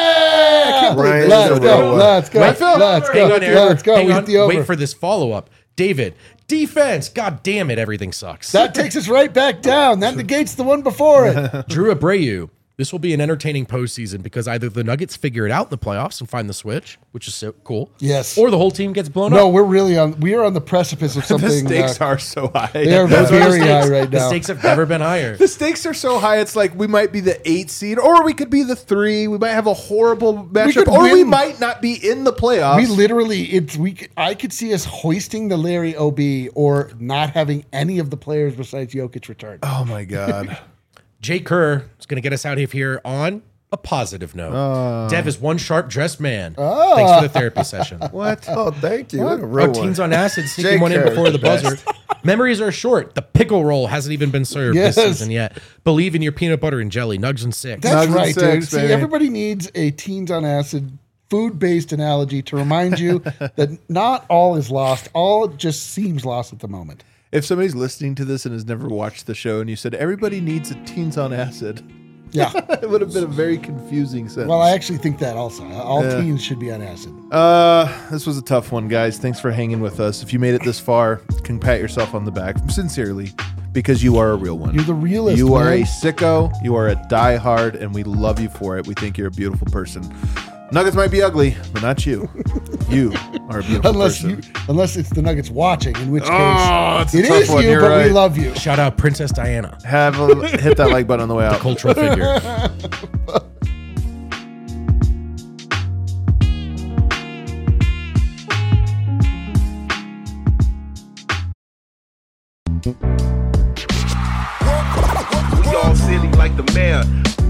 Yeah! Ryan, Let's so go. what? Let's go. Wait, Let's Hang go. on, Eric. Let's go. Hang We on. hit the over. Wait for this follow-up. David, defense. God damn it, everything sucks. That takes us right back down. That negates the one before it. Drew Abreu. This will be an entertaining postseason because either the Nuggets figure it out in the playoffs and find the switch, which is so cool. Yes. Or the whole team gets blown No, up. we're really on. We are on the precipice of something. The stakes uh, are so high. They are Those are the very stakes. high right The now. stakes have never been higher. The stakes are so high. It's like we might be the eight seed, or we could be the three. We might have a horrible matchup, could or we win. might not be in the playoffs. We literally, it's we. could- I could see us hoisting the Larry O B or not having any of the players besides Jokic return. oh my god. Jay Kerr is going to get us out of here on a positive note. Uh. Dev is one sharp dressed man. Thanks for the therapy session. What? Oh, thank you. What a Oh, real one. teens on acid, Jay sneaking one in Kerr, before the best. buzzer. Memories are short. The pickle roll hasn't even been served Yes. this season yet. Believe in your peanut butter and jelly. Nugs and six. That's Nugs and right, dude. six, See, baby. everybody needs a teens on acid food-based analogy to remind you that not all is lost. All just seems lost at the moment. If somebody's listening to this and has never watched the show, and you said everybody needs a teens on acid, Yeah. it would have been a very confusing sentence. Well, I actually think that also. All teens should be on acid. Uh, this was a tough one, guys. Thanks for hanging with us. If you made it this far, you can pat yourself on the back sincerely because you are a real one. You're the realist, You are man. a sicko. You are a diehard, and we love you for it. We think you're a beautiful person. Nuggets might be ugly, but not you. You are a beautiful Unless person. you, unless it's the Nuggets watching, in which case Oh, it's a it tough is one. you, You're but we right. love you. Shout out Princess Diana, Have a, hit that like button on the way out. cultural figure. We all silly like the mayor.